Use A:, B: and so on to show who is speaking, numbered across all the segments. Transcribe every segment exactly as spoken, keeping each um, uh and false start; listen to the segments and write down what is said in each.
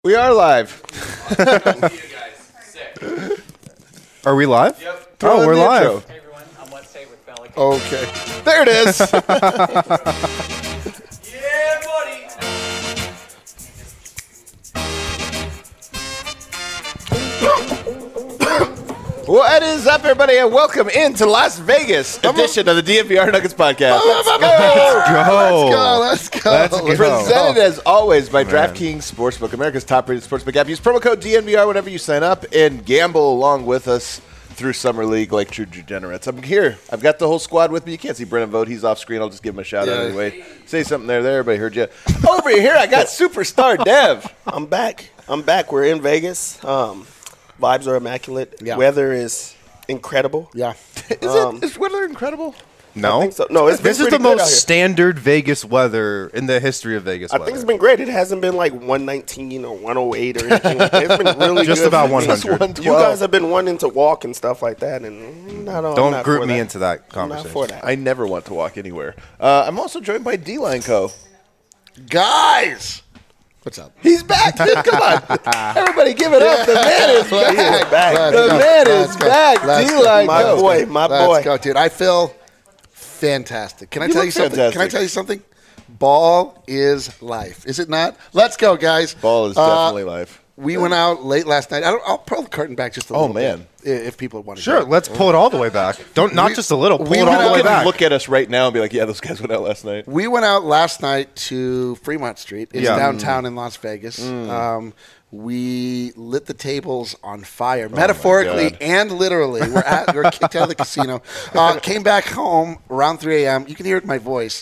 A: We are live.
B: Are we live?
A: Yep.
B: Oh, we're live.
A: Intro.
C: Hey everyone, I'm Let's Say with Bella.
A: Okay. There it is.
C: Yeah, buddy.
A: What is up, everybody, and welcome into Las Vegas edition of the D N V R Nuggets podcast. Let's go.
B: Go.
D: Let's go.
B: Let's go.
A: Presented as always by DraftKings Sportsbook, America's top-rated sportsbook app. Use promo code D N V R whenever you sign up and gamble along with us through Summer League like true degenerates. I'm here. I've got the whole squad with me. You can't see Brennan Vogt. He's off screen. I'll just give him a shout out
D: Yeah.
A: anyway. Say something there. There, everybody heard you. Over here, I got Superstar Dev.
E: I'm back. I'm back. We're in Vegas. Um, vibes are immaculate.
D: Yeah.
E: Weather is incredible.
D: Yeah.
A: Is
E: Um,
A: it? Is weather incredible?
B: No.
E: I think so. No, it's been
B: This is
E: pretty
B: the
E: good out
B: most
E: here.
B: standard Vegas weather in the history of Vegas
E: I
B: weather.
E: think it's been great. It hasn't been like one nineteen or one oh eight or anything. Like that. It's been really
B: Just
E: good.
B: about
E: Just
B: one hundred.
E: one twelve. You guys have been wanting to walk and stuff like that, and not, I'm
B: Don't
E: not
B: group
E: for
B: me
E: that.
B: into that
E: I'm not
B: conversation.
E: for that.
A: I never want to walk anywhere. Uh, I'm also joined by D-Line Co.
D: Guys. What's up?
A: He's back. Dude, come on. Everybody give it up. The man is back.
E: back.
A: The
D: go.
A: man
D: Let's
A: is
D: go.
A: back.
D: Let's go.
A: D-Line
E: My
A: Co.
E: boy, my
D: Let's
E: boy.
D: go, dude. I feel fantastic. Can I
A: You
D: tell
A: look
D: you something? Can I
A: fantastic.
D: tell you something? Ball is life. Is it not? Let's go, guys.
A: Ball is
D: Uh,
A: definitely life.
D: We went out late last night. I don't, I'll pull the curtain back just a
A: Oh,
D: little
A: man.
D: bit i- if people want to.
B: Sure,
D: go.
B: let's pull it all the way back. Don't not
D: We-
B: just a little. Pull
D: we
B: it all
D: went
B: the
D: out
B: way
A: Look at,
B: back.
A: look at us right now and be like, yeah, those guys went out last night.
D: We went out last night to Fremont Street. It's
B: Yeah.
D: downtown in Las Vegas. Um, we lit the tables on fire,
A: Oh
D: metaphorically
A: God.
D: and literally. We're at, we're kicked out of the casino. Uh, came back home around three a.m. You can hear it in my voice.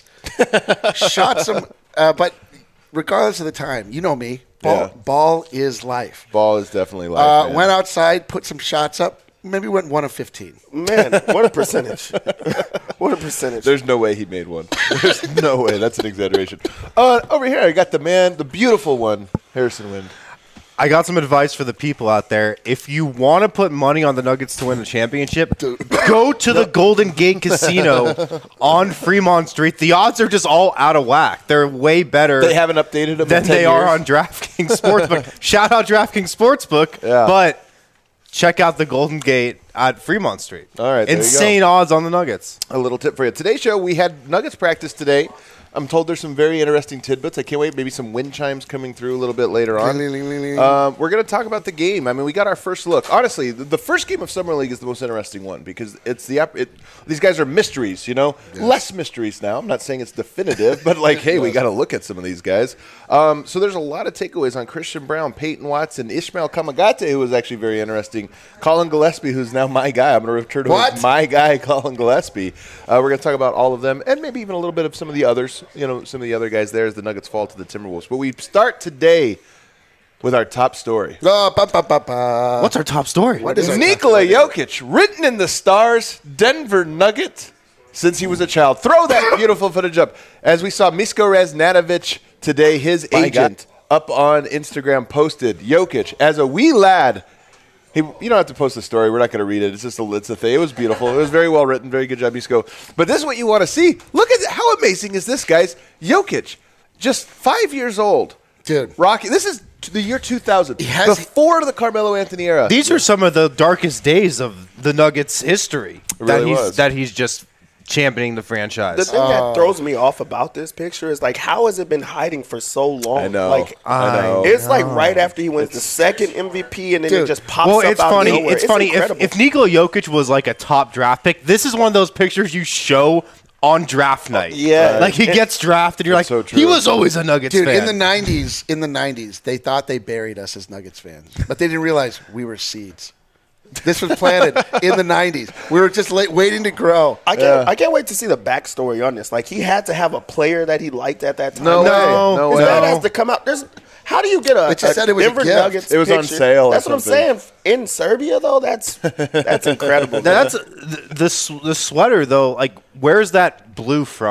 D: Shot some, uh, but regardless of the time, you know me. Ball,
A: Yeah.
D: ball is life.
A: Ball is definitely life.
D: Uh,
A: man.
D: went outside, put some shots up. Maybe went one of fifteen.
E: Man, what a percentage. What a percentage.
A: There's no way he made one. There's no way. That's an exaggeration. Uh, over here, I got the man, the beautiful one, Harrison Wind.
B: I got some advice for the people out there. If you want to put money on the Nuggets to win the championship, go to the Golden Gate Casino on Fremont Street. The odds are just all out of whack. They're way better
A: They haven't updated him
B: than
A: in ten
B: they are
A: years.
B: on DraftKings Sportsbook. Shout out DraftKings Sportsbook.
A: Yeah.
B: But check out the Golden Gate at Fremont Street.
A: All right, there you go.
B: Insane odds on the Nuggets.
A: A little tip for you. Today's show, we had Nuggets practice today. I'm told there's some very interesting tidbits. I can't wait. Maybe some wind chimes coming through a little bit later on. Um, we're going to talk about the game. I mean, we got our first look. Honestly, the, the first game of Summer League is the most interesting one because it's the it, these guys are mysteries, you know? Less mysteries now. I'm not saying it's definitive, but like, hey, we got to look at some of these guys. Um, so there's a lot of takeaways on Christian Brown, Peyton Watson, Ishmael Kamagate, who was actually very interesting, Colin Gillespie, who's now my guy. I'm going to return to him
D: What?
A: as my guy, Colin Gillespie. Uh, we're going to talk about all of them and maybe even a little bit of some of the others. You know, some of the other guys there as the Nuggets fall to the Timberwolves. But we start today with our top story.
D: Uh, ba, ba, ba, ba.
B: What's our top story?
D: What is our
A: Nikola Jokic, written in the stars, Denver Nugget since he was a child. Throw that beautiful footage up. As we saw Misko Raznatovic today, his
D: My
A: agent, up on Instagram posted Jokic as a wee lad. He, you don't have to post the story. We're not going to read it. It's just a, it's a thing. It was beautiful. It was very well written. Very good job, Misko. But this is what you want to see. Look at how amazing is this, guys? Jokic, just five years old.
D: Dude.
A: Rocky. This is the year two thousand,
D: He has-
A: before the Carmelo Anthony era.
B: These are some of the darkest days of the Nuggets' history.
A: It
B: that
A: really
B: he's
A: was.
B: that he's just championing the franchise.
E: The thing that throws me off about this picture is like, how has it been hiding for so long?
A: I know.
E: Like,
A: I know.
E: it's like right after he wins the second M V P, and then it
D: Dude.
E: just pops
B: well,
E: up
B: it's
E: out
B: funny.
E: of nowhere.
B: It's, funny if,
E: incredible.
B: if Nikola Jokic was like a top draft pick. This is one of those pictures you show on draft night.
E: yeah.
B: like he gets drafted. You're like,
A: so true.
B: he was always a Nuggets
D: Dude,
B: fan.
D: in the nineties, in the nineties, they thought they buried us as Nuggets fans, but they didn't realize we were seeds. This was planted in the nineties. We were just late, waiting to grow.
E: I can't. I can't wait to see the backstory on this. Like, he had to have a player that he liked at that time.
A: No
B: No,
A: way. No
E: His
A: way.
E: dad has to come out. There's. How do you get a,
D: It just
E: a
D: said it was a
E: Denver
D: gift.
E: Nuggets
A: It was on
E: picture?
A: sale or
E: That's what I'm
A: something.
E: saying. In Serbia, though, that's that's incredible.
B: Now, that's the, the s- the sweater though. Like, where's that blue from?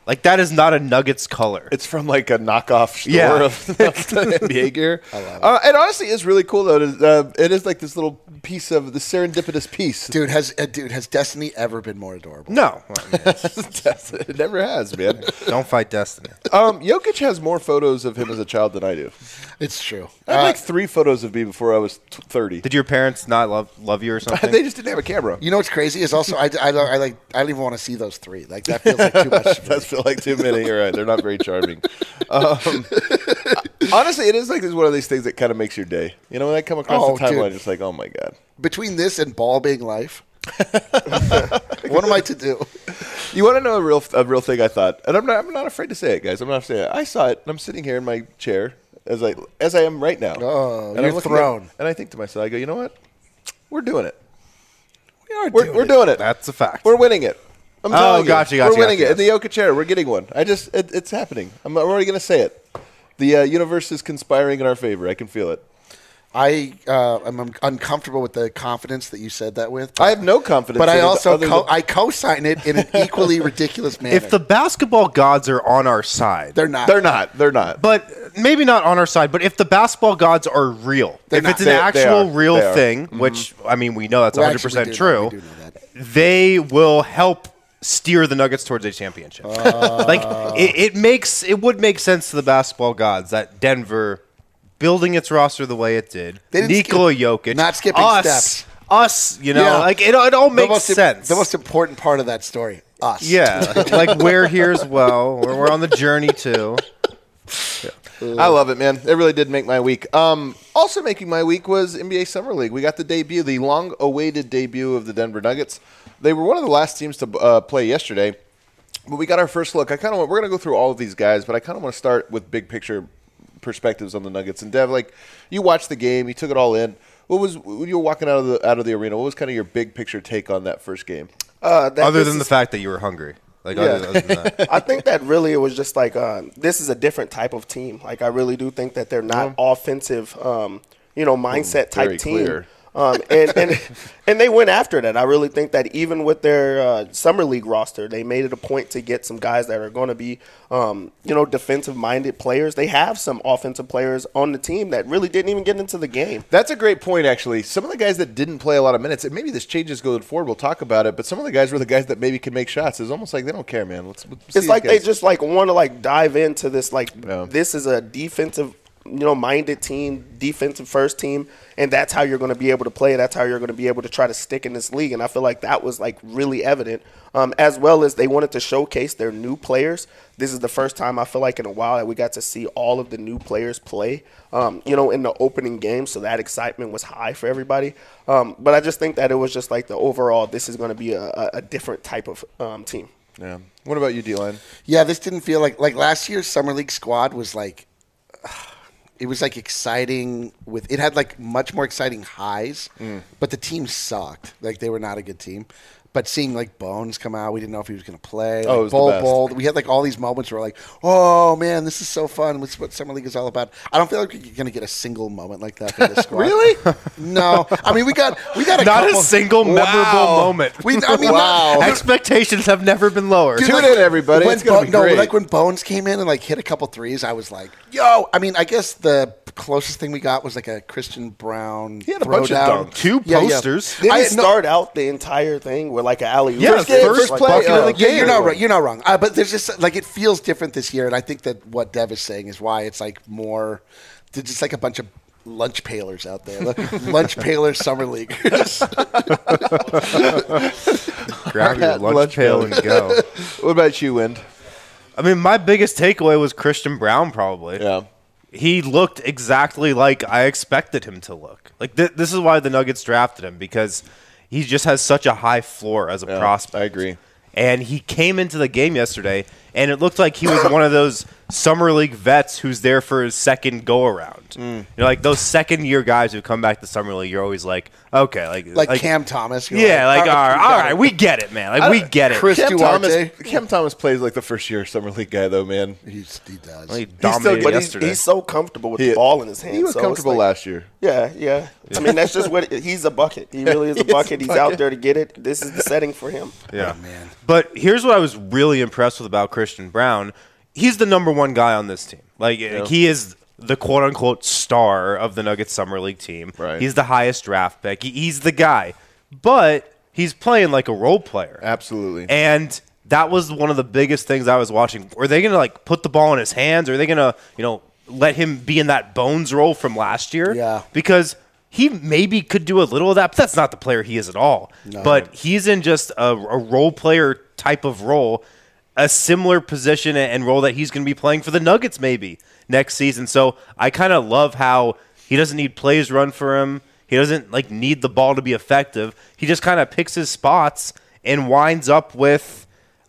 B: Like, that is not a Nuggets color.
A: It's from like a knockoff store
B: Yeah.
A: of, of the N B A gear. I love it. Uh, and honestly, it's really cool though. It is, uh, it is like this little piece of the serendipitous piece.
D: Dude, has uh, dude has Destiny ever been more adorable?
B: No.
A: It never has, man.
B: Don't fight Destiny.
A: Um, Jokic has more photos of him as a child than I do.
D: It's true.
A: I had
D: Uh,
A: like three photos of me before I was t- thirty.
B: Did your parents not love love you or something?
A: They just didn't have a camera.
D: you know what's crazy is also I, I, don't- I like I don't even want to see those three. Like that feels like too much. For me.
A: That's feel like too many. You're right. They're not very charming. Um, honestly, it is like this one of these things that kind of makes your day. You know, when I come across
D: Oh,
A: the timeline,
D: dude.
A: it's like, oh my god.
D: Between this and ball being life, what am I to do?
A: You want to know a real a real thing? I thought, and I'm not I'm not afraid to say it, guys. I'm not afraid to say it. I saw it, and I'm sitting here in my chair as I as I am right now.
D: Oh,
A: and
D: you're
A: I'm looking
D: thrown.
A: at- and I think to myself, I go, you know what? We're doing it.
D: We are
A: We're
D: doing
A: we're
D: it.
A: doing it.
B: That's a fact.
A: We're winning it. I'm
B: Oh,
A: telling you.
B: gotcha, gotcha,
A: We're winning
B: gotcha,
A: it. In the Jokic era, we're getting one. I just, it, it's happening. I'm already going to say it. The uh, universe is conspiring in our favor. I can feel it.
D: I uh, am uncomfortable with the confidence that you said that with.
A: I have no confidence.
D: but
A: in
D: I
A: it
D: also
A: other
D: co-
A: than-
D: I co-sign it in an equally ridiculous manner.
B: If the basketball gods are on our side,
D: they're not,
A: they're not. They're not.
B: but maybe not on our side, but if the basketball gods are real,
D: They're
B: if
D: not.
B: it's an
A: They- they
B: actual
A: are.
B: real
A: They are.
B: thing, which, I mean, we know that's
D: Well,
B: one
D: actually,
B: hundred
D: we
B: percent
D: do know-
B: true,
D: we do know that.
B: they will help steer the Nuggets towards a championship. like, it, it makes, it would make sense to the basketball gods that Denver, building its roster the way it did,
D: They didn't
B: Nikola
D: skip-
B: Jokic,
D: not skipping
B: us,
D: steps.
B: us, you know,
D: Yeah.
B: like, it, it all
D: the
B: makes
D: most,
B: sense.
D: The most important part of that story, us.
B: Yeah, like we're here as well. We're, we're on the journey too.
A: I love it, man. It really did make my week. Um, also making my week was N B A Summer League. We got the debut, the long-awaited debut of the Denver Nuggets. They were one of the last teams to uh, play yesterday, but we got our first look. I kind of we're going to go through all of these guys, but I kind of want to start with big picture perspectives on the Nuggets. And Dev, like you watched the game, you took it all in. What was when you were walking out of the out of the arena? What was kind of your big picture take on that first game?
E: Uh, that
B: Other
E: this
B: than the
E: is-
B: fact that you were hungry, like
E: Yeah.
B: other, other than that.
E: I think that really it was just like uh, this is a different type of team. Like I really do think that they're not offensive, um, you know, mindset type
A: Very
E: team.
A: clear.
E: Um, and, and and they went after that. I really think that even with their uh, summer league roster, they made it a point to get some guys that are going to be, um, you know, defensive-minded players. They have some offensive players on the team that really didn't even get into the game.
A: That's a great point, actually. Some of the guys that didn't play a lot of minutes, and maybe this changes going forward, we'll talk about it, but some of the guys were the guys that maybe can make shots. It's almost like they don't care, man. Let's, let's see
E: It's like
A: these
E: they
A: guys.
E: just like want to like dive into this like
A: Yeah.
E: this is a defensive, you know, minded team, defensive first team, and that's how you're going to be able to play. That's how you're going to be able to try to stick in this league. And I feel like that was like really evident, um, as well as they wanted to showcase their new players. This is the first time I feel like in a while that we got to see all of the new players play, um, you know, in the opening game. So that excitement was high for everybody. Um, but I just think that it was just like the overall, this is going to be a, a, a different type of um, team.
A: Yeah. What about you, D-Line?
D: Yeah, this didn't feel like like last year's summer league squad was like it was like exciting with it had like much more exciting highs, but the team sucked. Like they were not a good team. But seeing like Bones come out, we didn't know if he was going to play.
A: Oh,
D: Like,
A: it was the
D: Bol
A: best.
D: Bol, we had like all these moments where we're like, oh man, this is so fun. This is what summer league is all about. I don't feel like you're going to get a single moment like that from this squad.
A: Really?
D: No. I mean, we got we got a
B: Not
D: couple,
B: a single memorable
A: Wow.
B: moment.
D: We, I mean,
A: Wow.
D: not-
B: Expectations have never been lower.
A: Tune in, everybody.
D: When
A: It's gonna
D: Bo-
A: be
D: no,
A: great.
D: like when Bones came in and like hit a couple threes, I was like, "Yo!" I mean, I guess the closest thing we got was like a Christian Brown
A: He had a bunch of
D: throwdown.
A: dunks.
B: Two
D: Yeah, yeah.
B: posters.
E: Did
D: I-
E: he
D: no-
E: start out the entire thing with like an alley-oop?
B: Yeah,
A: First game,
B: first
A: first play,
B: bucket
A: uh,
B: of the
D: Yeah,
B: game.
D: you're not right. You're not wrong. Uh, but there's just like it feels different this year, and I think that what Dev is saying is why it's like more. There's just like a bunch of lunch pailers out there. Lunch pailers summer leaguers.
B: Grab your
A: Lunch
B: lunch pail and go.
A: What about you, Wind?
B: I mean, my biggest takeaway was Christian Brown, probably.
A: Yeah.
B: He looked exactly like I expected him to look. Like th- this is why the Nuggets drafted him, because he just has such a high floor as a
A: Yeah,
B: prospect.
A: I agree.
B: And he came into the game yesterday, and it looked like he was one of those summer league vets who's there for his second go around.
A: Mm.
B: You know, like those second year guys who come back to summer league. You're always like, okay, like
D: like, Cam Thomas. you're
B: yeah, like all right,
D: we
B: all
D: got
B: right,
D: it.
B: we get it, man. Like we get it.
D: Chris
A: Cam
D: Duarte.
A: Thomas, Cam Thomas plays like the first year summer league guy, though, man.
D: He's, he does.
B: He
E: He's
B: dominated
E: still, but he's,
B: yesterday.
E: he's so comfortable with
A: He-
E: the ball in his hand.
A: He was
E: so it's
A: comfortable
E: like-
A: last year.
E: Yeah, yeah. I mean, that's just what he's a bucket. He really is a
A: He is a
E: bucket. He's
A: bucket.
E: out there to get it. This is the setting for him.
B: Yeah,
D: man.
B: But here's what I was really impressed with about Christian Christian Brown, he's the number one guy on this team. Like yeah. he is the quote unquote star of the Nuggets Summer League team.
A: Right.
B: He's the highest draft pick. He, he's the guy, but he's playing like a role player.
A: Absolutely.
B: And that was one of the biggest things I was watching. Are they going to like put the ball in his hands? Or are they going to, you know, let him be in that Bones role from last year?
D: Yeah.
B: Because he maybe could do a little of that, but that's not the player he is at all.
D: No.
B: But he's in just a, a role player type of role, a similar position and role that he's going to be playing for the Nuggets maybe next season. So I kind of love how he doesn't need plays run for him. He doesn't like need the ball to be effective. He just kind of picks his spots and winds up with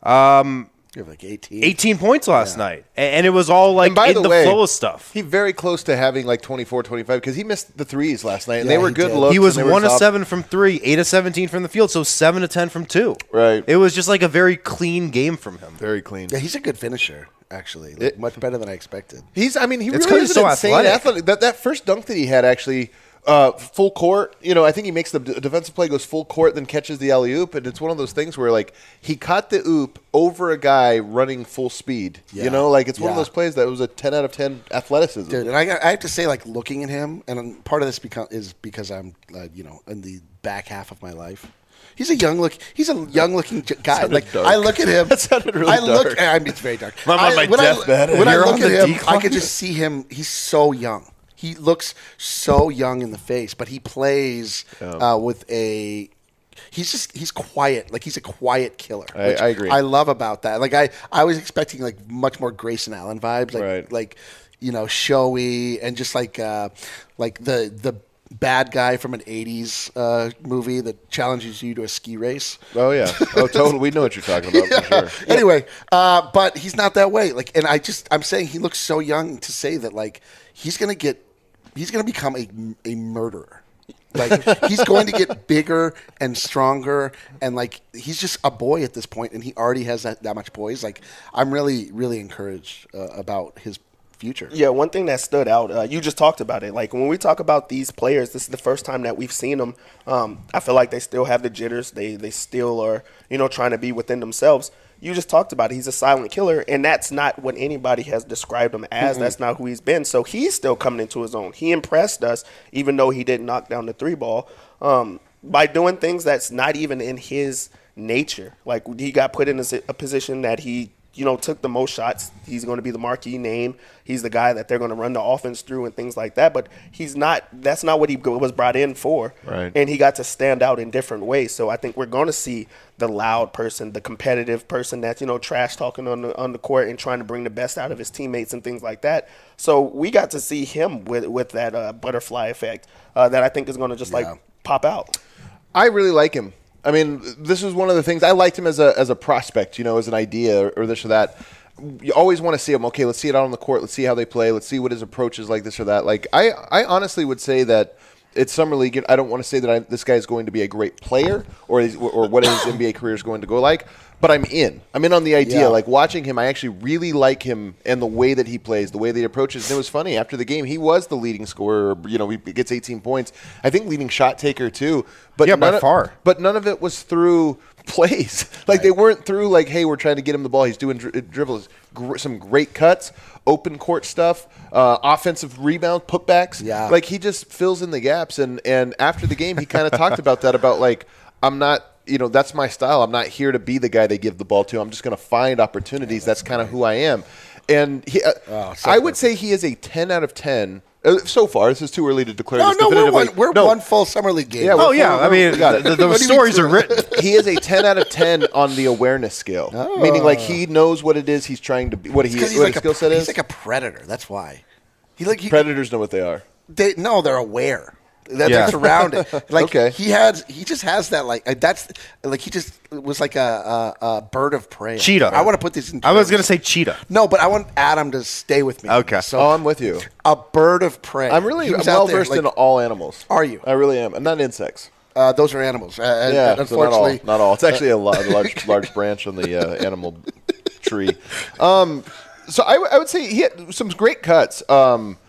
B: um,
D: you have like eighteen.
B: eighteen points last
D: Yeah.
B: night. And, and it was all like
A: And by
B: in
A: the
B: the,
A: way,
B: flow of stuff.
A: He very close to having like twenty-four, twenty-five because he missed the threes last night, and
D: Yeah,
A: they were
D: he
A: good
D: did.
A: looks.
B: He was
A: and they were
B: one of
A: soft.
B: seven from three, eight of seventeen from the field, so seven to ten from two.
A: Right.
B: It was just like a very clean game from him.
A: Very clean.
D: Yeah, he's a good finisher, actually. Like,
A: It-
D: much better than I expected.
A: He's. I mean, he
B: It's 'cause
A: really
B: he's
A: is
B: so
A: an insane
B: athletic.
A: athletic. That that first dunk that he had actually. Uh, full court, you know, I think he makes the d- defensive play, goes full court, then catches the alley oop, and it's one of those things where like he caught the oop over a guy running full speed.
D: Yeah.
A: You know, like it's one of
D: Yeah.
A: those plays that was a ten out of ten athleticism.
D: Dude, and I, got- I have to say, like, looking at him, and part of this become, is because I'm, uh, you know, in the back half of my life. He's a young look. He's a young looking j- guy.
A: Sounded
D: Like
A: dark.
D: I look at him.
A: That sounded really
D: I look.
A: dark.
D: I mean, it's very dark.
A: I'm on
D: I-
A: my
D: when I-
A: deathbed and
D: When I
B: you're
D: look
B: on
D: at
B: the
D: him,
B: decline.
D: I could just see him. He's so young. He looks so young in the face, but he plays uh, with a. He's just he's quiet. Like he's a quiet killer.
A: I-
D: which
A: I agree.
D: I love about that. Like I, I was expecting like much more Grayson Allen vibes. Like
A: Right.
D: like you know showy and just like uh, like the the bad guy from an eighties uh, movie that challenges you to a ski race.
A: Oh yeah. Oh, totally. We know what you're talking about for sure.
D: Anyway, uh, but he's not that way. Like, and I just I'm saying he looks so young to say that like he's gonna get he's gonna become a a murderer. Like he's going to get bigger and stronger, and like he's just a boy at this point, and he already has that, that much poise. Like I'm really really encouraged uh, about his future.
E: Yeah, one thing that stood out, uh, you just talked about it. Like when we talk about these players, this is the first time that we've seen them. Um, I feel like they still have the jitters. They they still are, you know, trying to be within themselves. You just talked about it. He's a silent killer, and that's not what anybody has described him as. Mm-hmm. That's not who he's been. So he's still coming into his own. He impressed us, even though he didn't knock down the three ball, um, by doing things that's not even in his nature. Like he got put in a, a position that he, you know, took the most shots. He's going to be the marquee name. He's the guy that they're going to run the offense through and things like that. But he's not. That's not what he was brought in for.
A: Right.
E: And he got to stand out in different ways. So I think we're going to see the loud person, the competitive person that's, you know, trash talking on the on the court and trying to bring the best out of his teammates and things like that. So we got to see him with with that uh, butterfly effect uh, that I think is going to just
D: Yeah.
E: like pop out.
A: I really like him. I mean, this is one of the things I liked him as a as a prospect, you know, as an idea or, or this or that. You always want to see him. Okay, let's see it out on the court. Let's see how they play. Let's see what his approach is like, this or that. Like, I, I honestly would say that it's summer league. I don't want to say that I, this guy is going to be a great player or is, or what his N B A career is going to go like. But I'm in. I'm in on the idea.
D: Yeah.
A: Like watching him, I actually really like him and the way that he plays, the way that he approaches. And it was funny after the game. He was the leading scorer. You know, he gets eighteen points. I think leading shot taker too. But
B: Yeah, by
A: none of-
B: far.
A: But none of it was through plays. Like they weren't through like, hey, we're trying to get him the ball. He's doing dri- dribbles. Gr- some great cuts, open court stuff, uh, offensive rebound, putbacks.
D: Yeah.
A: Like he just fills in the gaps. And and after the game, he kind of talked about that. About like, I'm not. You know, that's my style. I'm not here to be the guy they give the ball to. I'm just going to find opportunities. That's kind of who I am. And he, uh,
D: Oh, so
A: I would
D: perfect.
A: say he is a ten out of ten. Uh, so far, this is too early to declare
D: No,
A: this
D: no, we're
A: definitively.
D: one, we're
A: No,
D: one full summer league game.
A: Yeah,
B: Oh,
A: we're-
B: yeah. I
A: we're-
B: mean,
A: we got it.
B: the, the,
D: What do you mean
B: stories are
D: true?
B: written.
A: He is a ten out of ten on the awareness scale, meaning like he knows what it is he's trying to be, what he
D: Because he's
A: what
D: like
A: his
D: a
A: skill set
D: he's
A: is.
D: like a predator. That's why. He like he,
A: Predators know what they are.
D: they no, they're aware. That
B: Yeah.
D: they're surrounded. Like
A: Okay.
D: he had, he just has that like uh, that's like he just was like a, a, a bird of prey.
B: Cheetah.
D: I want to put this in.
B: I was
D: terms.
B: going to say cheetah.
D: no, but I want Adam to stay with me.
B: Okay.
D: So
A: Oh, I'm with you.
D: a bird of prey.
A: I'm really
D: He was
A: well
D: out there,
A: versed
D: like,
A: in all animals.
D: Are you?
A: I really am, and not insects.
D: Uh, those are animals. Uh, and-
A: Yeah,
D: and
A: so not all.
D: unfortunately,
A: Not all. It's actually a, lo- a large, large branch on the uh, animal tree. Um, so I, w- I would say he had some great cuts. Um,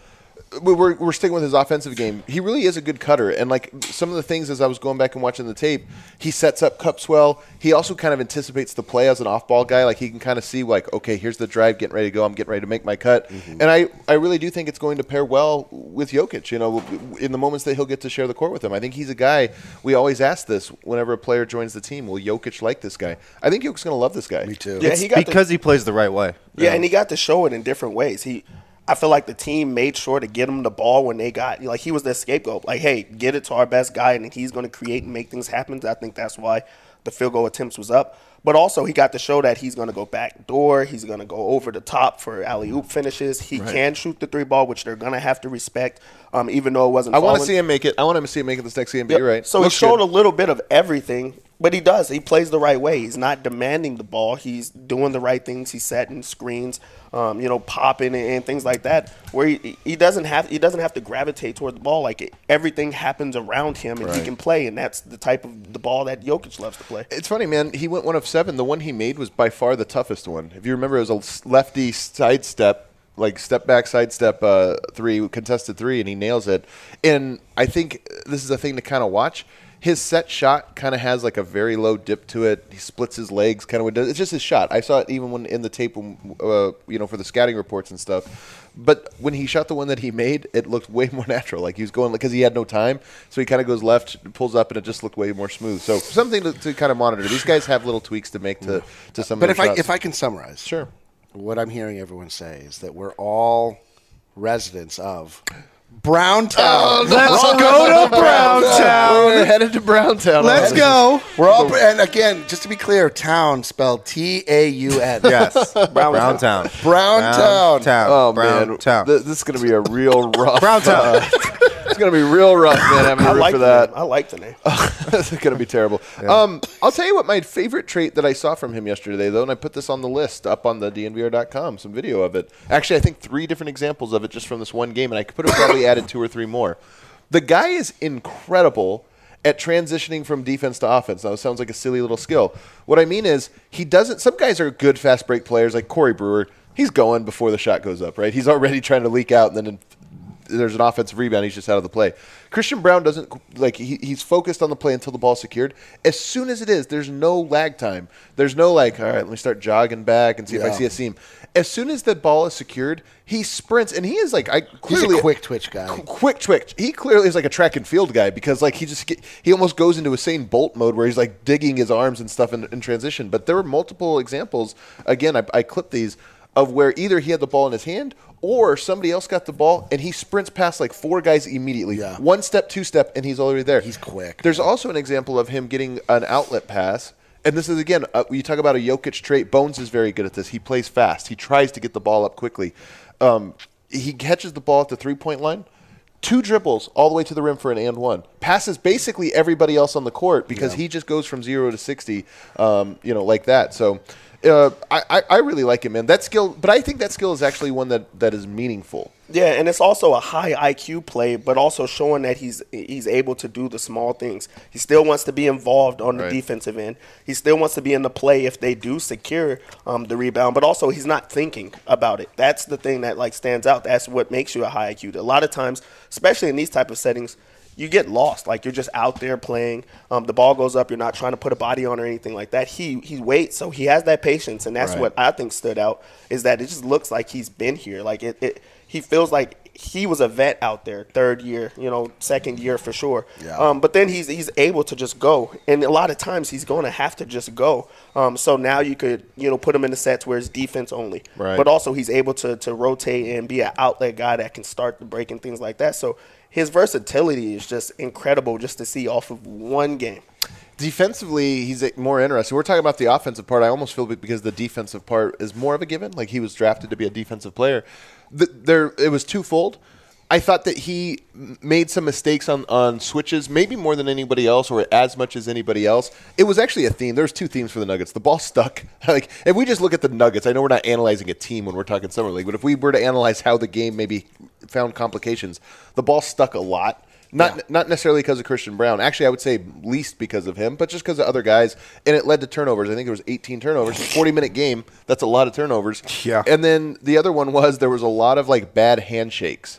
A: we we're, we're sticking with his offensive game. He really is a good cutter. And, like, some of the things as I was going back and watching the tape, he sets up cups well. He also kind of anticipates the play as an off-ball guy. Like, he can kind of see, like, okay, here's the drive, getting ready to go. I'm getting ready to make my cut. Mm-hmm. And I, I really do think it's going to pair well with Jokic, you know, in the moments that he'll get to share the court with him. I think he's a guy, we always ask this whenever a player joins the team, will Jokic like this guy? I think Jokic's going to love this guy.
D: Me too.
E: Yeah,
B: It's
E: he got
B: because
E: the,
B: he plays the right way.
E: yeah, and he got to show it in different ways. He, I feel like the team made sure to get him the ball when they got, like, he was their scapegoat. Like, hey, get it to our best guy, and he's going to create and make things happen. I think that's why the field goal attempts was up. But also, he got to show that he's going to go back door. He's going to go over the top for alley-oop finishes. He right. can shoot the three ball, which they're going to have to respect, um, even though it wasn't
A: I
E: falling.
A: want to see him make it. I want him to see him make it this next game, but yep. you're right.
E: So
A: Looks
E: he showed
A: good.
E: a little bit of everything, but he does. He plays the right way. He's not demanding the ball. He's doing the right things. He's setting screens, um, you know, popping and, and things like that, where he, he doesn't have he doesn't have to gravitate toward the ball. Like, it, everything happens around him, and right. he can play, and that's the type of the ball that Jokic loves to play.
A: It's funny, man. He went one of seven. The one he made was by far the toughest one. If you remember, it was a lefty sidestep, like step back sidestep uh, three, contested three, and he nails it. And I think this is a thing to kind of watch. His set shot kind of has like a very low dip to it. He splits his legs, kind of. It's just his shot. I saw it even when in the tape, uh, you know, for the scouting reports and stuff. But when he shot the one that he made, it looked way more natural. Like he was going because he had no time, so he kind of goes left, pulls up, and it just looked way more smooth. So something to, to kind of monitor. These guys have little tweaks to make to to some.
D: But
A: of
D: if
A: their
D: I
A: shots.
D: if I can summarize,
A: sure.
D: What I'm hearing everyone say is that we're all residents of Browntown.
B: Oh, let's go to Browntown.
A: We're headed to Browntown.
B: Let's go.
D: We're all, and again, just to be clear, town spelled T A U N.
B: Yes, Browntown.
D: Browntown.
B: Browntown.
A: Oh
B: Brown
A: man,
B: Town.
A: Th- this is going to be a real rough.
B: Browntown.
A: Uh, it's going to be real rough, man. Having to
E: I
A: root
E: like
A: for
E: the
A: that.
E: name. I like the name.
A: This is going to be terrible. Yeah. Um, I'll tell you what my favorite trait that I saw from him yesterday, though, and I put this on the list up on the D N V R dot com, some video of it. Actually, I think three different examples of it just from this one game, and I could have probably added two or three more. The guy is incredible at transitioning from defense to offense. Now, it sounds like a silly little skill. What I mean is he doesn't – some guys are good fast break players like Corey Brewer. He's going before the shot goes up, right? He's already trying to leak out, and then in, there's an offensive rebound. He's just out of the play. Christian Braun doesn't – like he, he's focused on the play until the ball's secured. As soon as it is, there's no lag time. There's no like, all right, let me start jogging back and see
D: yeah.
A: if I see a seam. As soon as the ball is secured, he sprints, and he is like I clearly
D: He's a quick twitch guy.
A: Qu- quick twitch. He clearly is like a track and field guy because like he just get, he almost goes into Usain Bolt mode where he's like digging his arms and stuff in, in transition. But there were multiple examples. Again, I, I clipped these of where either he had the ball in his hand or somebody else got the ball and he sprints past like four guys immediately.
D: Yeah.
A: One step, two step, and he's already there.
D: He's quick.
A: There's also an example of him getting an outlet pass. And this is, again, uh, you talk about a Jokic trait. Bones is very good at this. He plays fast. He tries to get the ball up quickly. Um, he catches the ball at the three-point line, two dribbles all the way to the rim for an and one. Passes basically everybody else on the court because yeah. he just goes from zero to sixty, um, you know, like that. So uh, I, I really like him, man. That skill, but I think that skill is actually one that, that is meaningful.
E: Yeah, and it's also a high I Q play, but also showing that he's he's able to do the small things. He still wants to be involved on the
A: right.
E: defensive end. He still wants to be in the play if they do secure um, the rebound, but also he's not thinking about it. That's the thing that like stands out. That's what makes you a high I Q. A lot of times, especially in these type of settings, you get lost. Like you're just out there playing. Um, the ball goes up. You're not trying to put a body on or anything like that. He he waits, so he has that patience, and that's
A: right.
E: what I think stood out is that it just looks like he's been here. Like it, it he feels like he was a vet out there, third year, you know, second year for sure.
D: Yeah.
E: Um, but then he's he's able to just go, and a lot of times he's going to have to just go. Um, so now you could you know put him in the sets where it's defense only,
A: right.
E: but also he's able to to rotate and be an outlet guy that can start the break and things like that. So his versatility is just incredible just to see off of one game.
A: Defensively, he's more interesting. We're talking about the offensive part. I almost feel because the defensive part is more of a given. Like he was drafted to be a defensive player. The, there, it was twofold. I thought that he made some mistakes on, on switches, maybe more than anybody else or as much as anybody else. It was actually a theme. There's two themes for the Nuggets. The ball stuck. Like if we just look at the Nuggets, I know we're not analyzing a team when we're talking Summer League, but if we were to analyze how the game maybe found complications, the ball stuck a lot. Not yeah. not necessarily because of Christian Braun. Actually, I would say least because of him, but just because of other guys. And it led to turnovers. I think there was eighteen turnovers. forty-minute game. That's a lot of turnovers.
B: Yeah.
A: And then the other one was there was a lot of, like, bad handshakes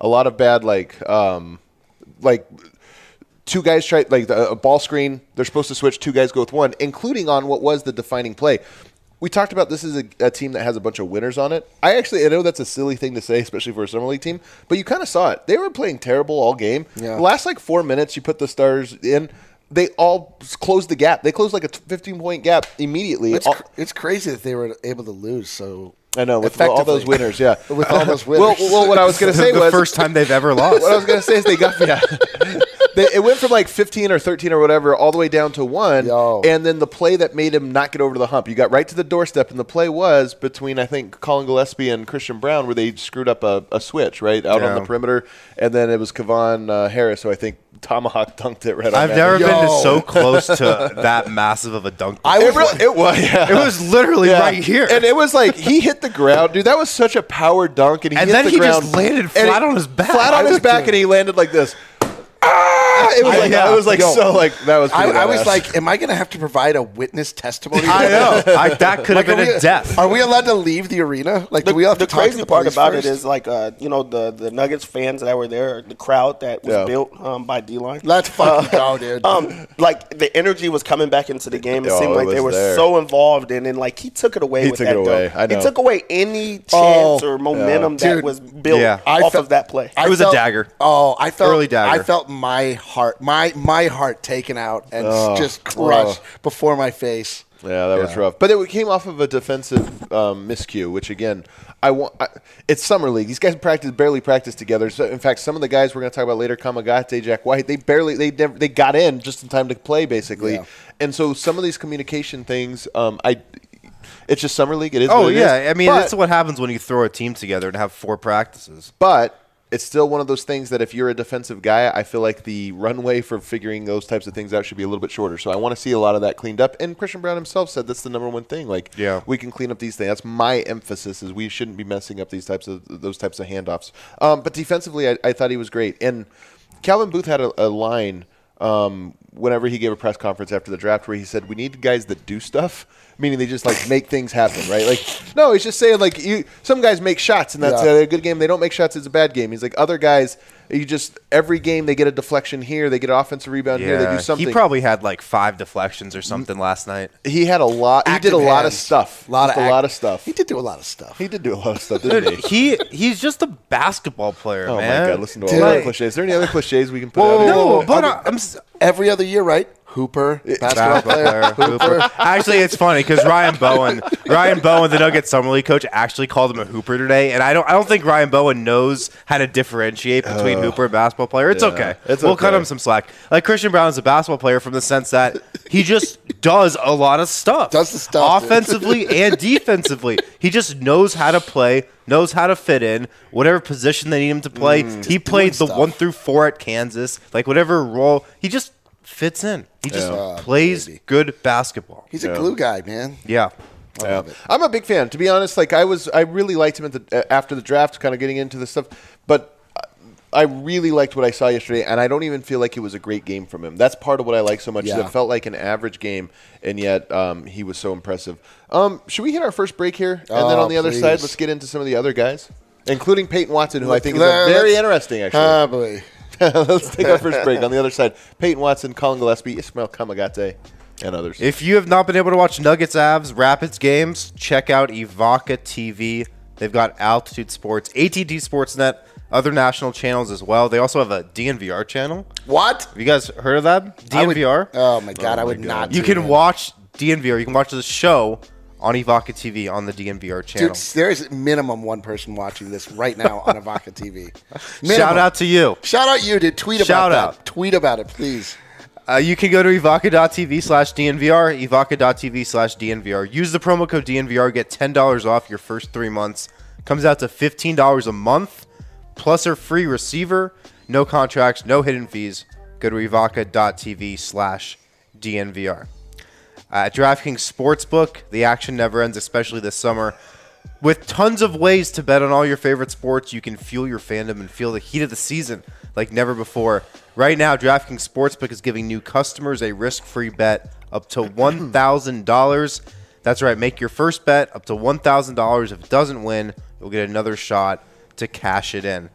A: a lot of bad like um, like two guys try like the, a ball screen. They're supposed to switch. Two guys go with one, including on what was the defining play. We talked about this is a, a team that has a bunch of winners on it. I actually I know that's a silly thing to say, especially for a summer league team, but you kind of saw it. They were playing terrible all game.
D: Yeah.
A: The last like four minutes, you put the stars in. They all closed the gap. They closed like a fifteen-point gap immediately.
D: It's,
A: All-
D: cr- it's crazy that they were able to lose so
A: I know, with all those
D: effectively.
A: winners, yeah.
D: With all those
A: Well,
D: winners.
A: well, what I was going to say
B: the
A: was
B: first time they've ever lost.
A: what I was going to say is they got yeah. They, it went from like fifteen or thirteen or whatever all the way down to one,
D: Yo.
A: and then the play that made him not get over the hump. You got right to the doorstep, and the play was between I think Colin Gillespie and Christian Brown, where they screwed up a, a switch right out on
B: Yeah.
A: the perimeter, and then it was Kevon uh, Harris, who I think tomahawk dunked it right. on
B: I've
A: that.
B: never
D: Yo.
B: been to so close to that massive of a dunk.
D: I
A: It,
D: was
A: really, it was. Yeah.
B: it was literally
A: Yeah.
B: right here.
A: And it was like he hit the ground, dude. That was such a power dunk, and he
B: And
A: hit
B: then
A: the
B: he
A: ground,
B: just landed
A: and
B: flat
A: it-
B: on his back.
A: flat on
B: I
A: his
B: was-
A: back, and he landed like this. Ah! It was like
B: Yeah.
A: it was like
D: Yo.
A: so like that was.
D: I,
A: pretty
D: I was
A: badass.
D: like, am I going to have to provide a witness testimony?
B: I know. I, that could
D: Like,
B: have
D: are,
B: been
D: we,
B: a death.
D: are we allowed to leave the arena? Like,
E: The,
D: do we have
E: the
D: to talk to
E: crazy
D: the
E: part
D: police
E: about
D: first?
E: it is like uh, you know the the Nuggets fans that were there, the crowd that was
A: Yeah.
E: built um, by D-Line.
D: Let's fucking go, dude.
E: Um, like the energy was coming back into the game. It
A: Oh,
E: seemed
A: it
E: like they
A: was
E: were
A: there.
E: so involved, and then like he took it away
A: He
E: with
A: took
E: that
A: it away.
E: dunk.
A: I know.
E: He took away any chance
D: Oh,
E: or momentum
D: yeah.
E: that
D: Dude,
E: was built
B: Yeah.
D: I
E: off
D: felt-
E: of that play.
D: I
B: It was a dagger.
D: Oh, I felt
B: Early dagger.
D: I felt my heart, my my heart taken out and
A: Oh,
D: just crushed before my face.
A: Yeah, that was rough. But it came off of a defensive um, miscue, which again, I want. I, it's summer league. These guys practice barely practice together. So in fact, some of the guys we're going to talk about later, Kamagate, Jack White, they barely they never they got in just in time to play basically.
D: Yeah.
A: And so some of these communication things, um, I. It's just summer league. It is.
B: Oh
A: what it
B: yeah,
A: is.
B: I mean
A: But-
B: that's what happens when you throw a team together and have four practices.
A: But it's still one of those things that if you're a defensive guy, I feel like the runway for figuring those types of things out should be a little bit shorter. So I want to see a lot of that cleaned up. And Christian Brown himself said that's the number one thing. Like,
B: Yeah.
A: we can clean up these things. That's my emphasis is we shouldn't be messing up these types of those types of handoffs. Um, but defensively, I, I thought he was great. And Calvin Booth had a, a line um, whenever he gave a press conference after the draft where he said, "We need guys that do stuff." Meaning they just like make things happen, right? Like, no, he's just saying like you. Some guys make shots, and that's
D: Yeah.
A: a good game. They don't make shots; it's a bad game. He's like other guys. You just every game they get a deflection here, they get an offensive rebound here, they do something.
B: he probably had like five deflections or something last night.
A: He had a lot. He did
D: Active
A: a lot of
D: hands.
A: stuff.
D: lot
A: Just
D: of
A: a
D: act-
A: lot of stuff.
D: He did do a lot of stuff.
A: He did do a lot of stuff, didn't he?
B: he he's just a basketball player,
A: Oh
B: man.
A: my god! Listen to all
D: Dude.
A: the other
B: Like-
A: cliches. Is there any other cliches we can put
B: Whoa,
A: out? here?
B: no, but I, I'm s-
D: Every other year, right? Hooper, basketball,
B: basketball
D: player,
B: player, Hooper. Actually, it's funny because Ryan Bowen, Ryan Bowen, the Nuggets summer league coach, actually called him a hooper today, and I don't, I don't think Ryan Bowen knows how to differentiate between hooper and basketball player. It's
A: yeah,
B: okay.
A: it's
B: we'll
A: okay.
B: cut him some slack. Like Christian Brown is a basketball player from the sense that he just does a lot of stuff,
D: Does the stuff, dude.
B: offensively and defensively. He just knows how to play, knows how to fit in whatever position they need him to play. he played the
D: stuff.
B: one through four at Kansas, like whatever role he just fits in. He just
D: Yeah.
B: plays
D: Baby.
B: good basketball.
D: He's a glue guy, man.
B: Yeah.
D: I
A: Yeah.
D: love it.
A: I'm a big fan. To be honest, like I was, I really liked him at the uh, after the draft, kind of getting into this stuff. But I really liked what I saw yesterday, and I don't even feel like it was a great game from him. That's part of what I like so much. Is
D: Yeah.
A: it felt like an average game, and yet um, he was so impressive. Um, should we hit our first break here, and then
D: Oh,
A: on the other
D: please.
A: side, let's get into some of the other guys, including Peyton Watson, who I think is
D: Let's-
A: a very interesting. Actually,
D: Ah, boy.
A: let's take our first break. On the other side, Peyton Watson, Colin Gillespie, Ismail Kamagate, and others.
B: If you have not been able to watch Nuggets, Avs, Rapids games, check out Evoca T V. They've got Altitude Sports, A T T Sportsnet, other national channels as well. They also have a D N V R channel.
D: What?
B: Have you guys heard of that?
D: I would-
B: D N V R?
D: Oh my god, I
A: my
D: would
A: God.
D: not.
B: you
D: do
B: can
D: that.
B: watch D N V R. You can watch the show on Evoca T V on the D N V R channel.
D: Dude, there is minimum one person watching this right now on Evoca T V. Minimum.
B: Shout out to you.
D: Shout out you, dude. Tweet about
B: Shout
D: that.
B: out.
D: Tweet about it, please.
B: Uh, you can go to evoca.tv slash DNVR, evoca.tv slash DNVR. Use the promo code D N V R, get ten dollars off your first three months. Comes out to fifteen dollars a month, plus a free receiver. No contracts, no hidden fees. Go to evoca.tv slash DNVR. Uh, at DraftKings Sportsbook, the action never ends, especially this summer. With tons of ways to bet on all your favorite sports, you can fuel your fandom and feel the heat of the season like never before. Right now, DraftKings Sportsbook is giving new customers a risk-free bet up to one thousand dollars. That's right, make your first bet up to one thousand dollars. If it doesn't win, you'll get another shot to cash it in.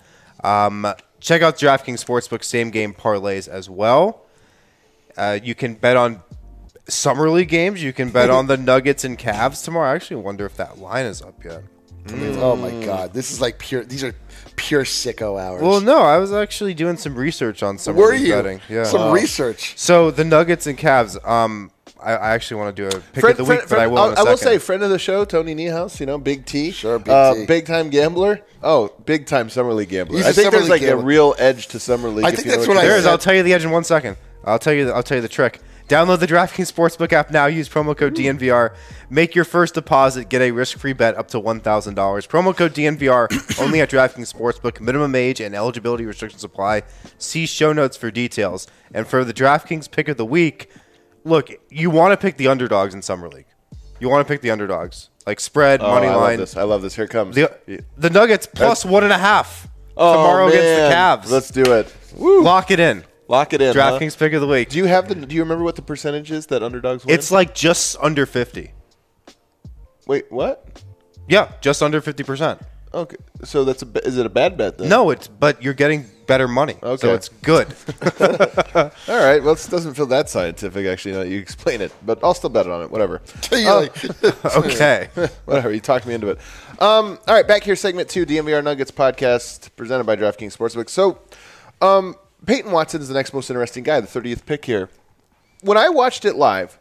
B: Um, check out DraftKings Sportsbook same game parlays as well. Uh, you can bet on Summer League games. You can bet on the Nuggets and Cavs tomorrow. I actually wonder if that line is up yet.
D: Mm. Oh my God, this is like pure. These are pure sicko hours.
B: Well, no, I was actually doing some research on Summer
D: Were
B: League
D: you?
B: betting. Yeah.
D: Some
B: Wow.
D: research.
B: So the Nuggets and Cavs. Um, I, I actually want to do a pick of the week, but I will.
A: I'll-
B: in a
A: I will
B: second.
A: say, friend of the show, Tony Niehaus. You know, Big T.
D: Sure, Big
A: uh,
D: T.
A: Big time gambler. Oh, big time Summer League gambler.
D: He's
A: I
D: a
A: think
D: Summer
A: there's
D: League
A: like
D: gambler.
A: a real edge to Summer League.
D: I
A: if
D: think
A: you know
D: that's
A: what
D: what
A: you're
D: I
B: There is.
D: said.
B: I'll tell you the edge in one second. I'll tell you. The, I'll tell you the trick. Download the DraftKings Sportsbook app now. Use promo code D N V R. Make your first deposit. Get a risk-free bet up to one thousand dollars. Promo code D N V R only at DraftKings Sportsbook. Minimum age and eligibility restrictions apply. See show notes for details. And for the DraftKings pick of the week, look, you want to pick the underdogs in Summer League. You want to pick the underdogs, like spread,
A: Oh,
B: money
A: I
B: line.
A: love this. I love this. Here it comes.
B: The, the Nuggets plus one and a half
A: Oh,
B: tomorrow against the
A: man.
B: Cavs.
A: Let's do it.
B: Lock it in.
A: Lock it in. huh?
B: DraftKings pick of the week.
A: Do you have the? Do you remember what the percentage is that underdogs win?
B: It's like just under fifty.
A: Wait, what?
B: Yeah, just under fifty percent.
A: Okay, so that's a. ba- Is it a bad bet then?
B: No, it's but you're getting better money,
A: Okay.
B: so it's good.
A: All right. Well, it doesn't feel that scientific actually. Now that you explain it, but I'll still bet on it. Whatever.
D: You're like,
B: Okay.
A: Whatever. You talked me into it. Um, all right. Back here, segment two, D N V R Nuggets podcast presented by DraftKings Sportsbook. So, um, Peyton Watson is the next most interesting guy, the thirtieth pick here. When I watched it live,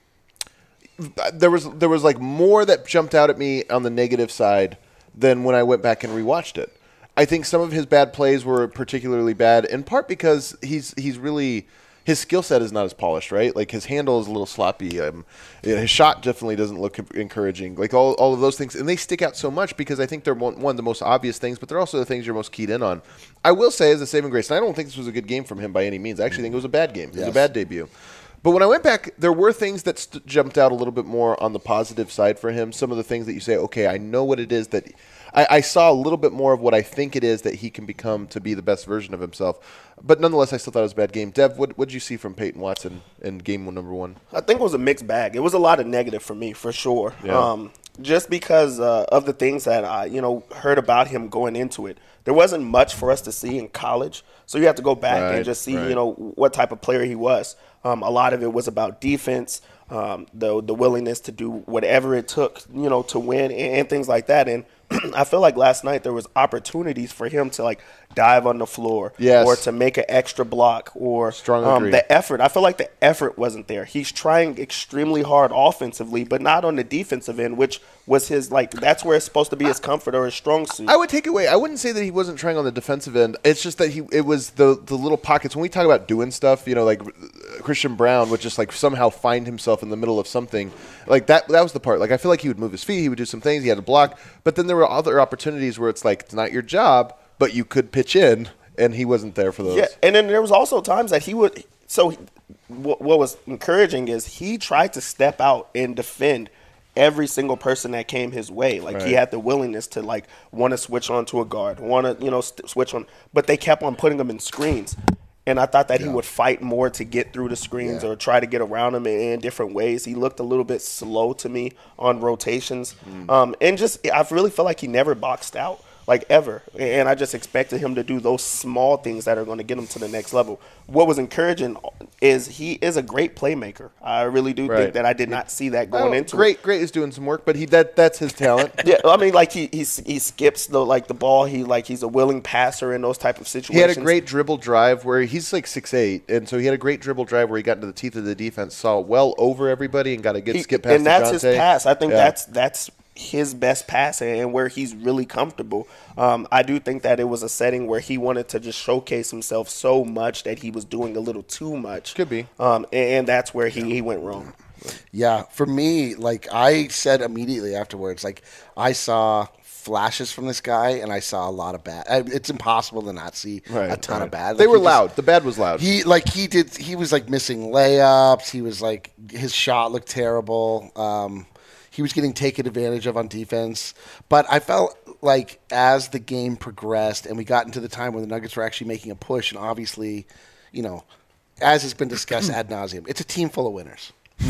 A: there was there was like more that jumped out at me on the negative side than when I went back and rewatched it. I think some of his bad plays were particularly bad, in part because he's he's really his skill set is not as polished, right? Like his handle is a little sloppy. Um, you know, his shot definitely doesn't look encouraging. Like all, all of those things, and they stick out so much because I think they're one, one of the most obvious things, but they're also the things you're most keyed in on. I will say, as a saving grace, and I don't think this was a good game from him by any means. I actually think it was a bad game. It was
D: Yes.
A: a bad debut. But when I went back, there were things that st- jumped out a little bit more on the positive side for him. Some of the things that you say, okay, I know what it is that I, I saw a little bit more of what I think it is that he can become to be the best version of himself. But nonetheless, I still thought it was a bad game. Dev, what did you see from Peyton Watson in game number one?
E: I think it was a mixed bag. It was a lot of negative for me, for sure.
A: Yeah.
E: Um, just because uh, of the things that I, you know, heard about him going into it. There wasn't much for us to see in college, so you have to go back
A: Right,
E: and just see,
A: right.
E: you know, what type of player he was. Um, a lot of it was about defense, um, the the willingness to do whatever it took, you know, to win and, and things like that. And I feel like last night there was opportunities for him to like dive on the floor,
A: Yes.
E: or to make an extra block, or
A: Strong
E: um,
A: agree.
E: the effort. I feel like the effort wasn't there. He's trying extremely hard offensively, but not on the defensive end, which was his like. That's where it's supposed to be his comfort or his strong suit.
A: I would take away. I wouldn't say that he wasn't trying on the defensive end. It's just that he. It was the the little pockets when we talk about doing stuff. You know, like Christian Brown would just like somehow find himself in the middle of something. Like that. That was the part. Like I feel like he would move his feet. He would do some things. He had to block. But then there were other opportunities where it's like it's not your job, but you could pitch in, and he wasn't there for those.
E: Yeah, and then there was also times that he would. So he- what, what was encouraging is he tried to step out and defend every single person that came his way. Like he
A: Right.
E: had the willingness to like want to switch on to a guard, want to you know st- switch on, but they kept on putting him in screens. And I thought that he would fight more to get through the screens
D: Yeah.
E: or try to get around them in, in different ways. He looked a little bit slow to me on rotations, um, and just I really feel like he never boxed out. Like ever. And I just expected him to do those small things that are going to get him to the next level. What was encouraging is he is a great playmaker. I really do
A: Right.
E: think that I did not see that going
A: Oh,
E: into
A: great,
E: it.
A: great is doing some work, but he that that's his talent.
E: Yeah, I mean, like he he he skips the like the ball. He like he's a willing passer in those type of situations.
A: He had a great dribble drive where he's like six eight, and so he had a great dribble drive where he got into the teeth of the defense, saw well over everybody, and got a good
E: He-
A: skip pass.
E: and that's
A: to
E: his
A: Jonte.
E: pass. I think
A: Yeah.
E: that's that's his best pass and where he's really comfortable. Um, I do think that it was a setting where he wanted to just showcase himself so much that he was doing a little too much.
A: Could be.
E: Um, and, and that's where he, he went wrong.
D: Yeah, for me, like I said immediately afterwards, like I saw flashes from this guy, and I saw a lot of bad. I- It's impossible to not see
A: Right,
D: a ton
A: right.
D: of bad.
A: They
D: Like,
A: were
D: he just-
A: loud. The bad was loud.
D: He like he did. He was like missing layups. He was like his shot looked terrible. Um, he was getting taken advantage of on defense. But I felt like as the game progressed and we got into the time when the Nuggets were actually making a push, and obviously, you know, as has been discussed ad nauseum, it's a team full of winners.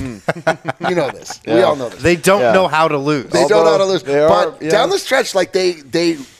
D: You know this. We all know this.
B: They don't
A: Yeah.
B: know how to lose.
D: They don't know how to lose.
A: They are-
D: But
A: yeah.
D: down the stretch, like they they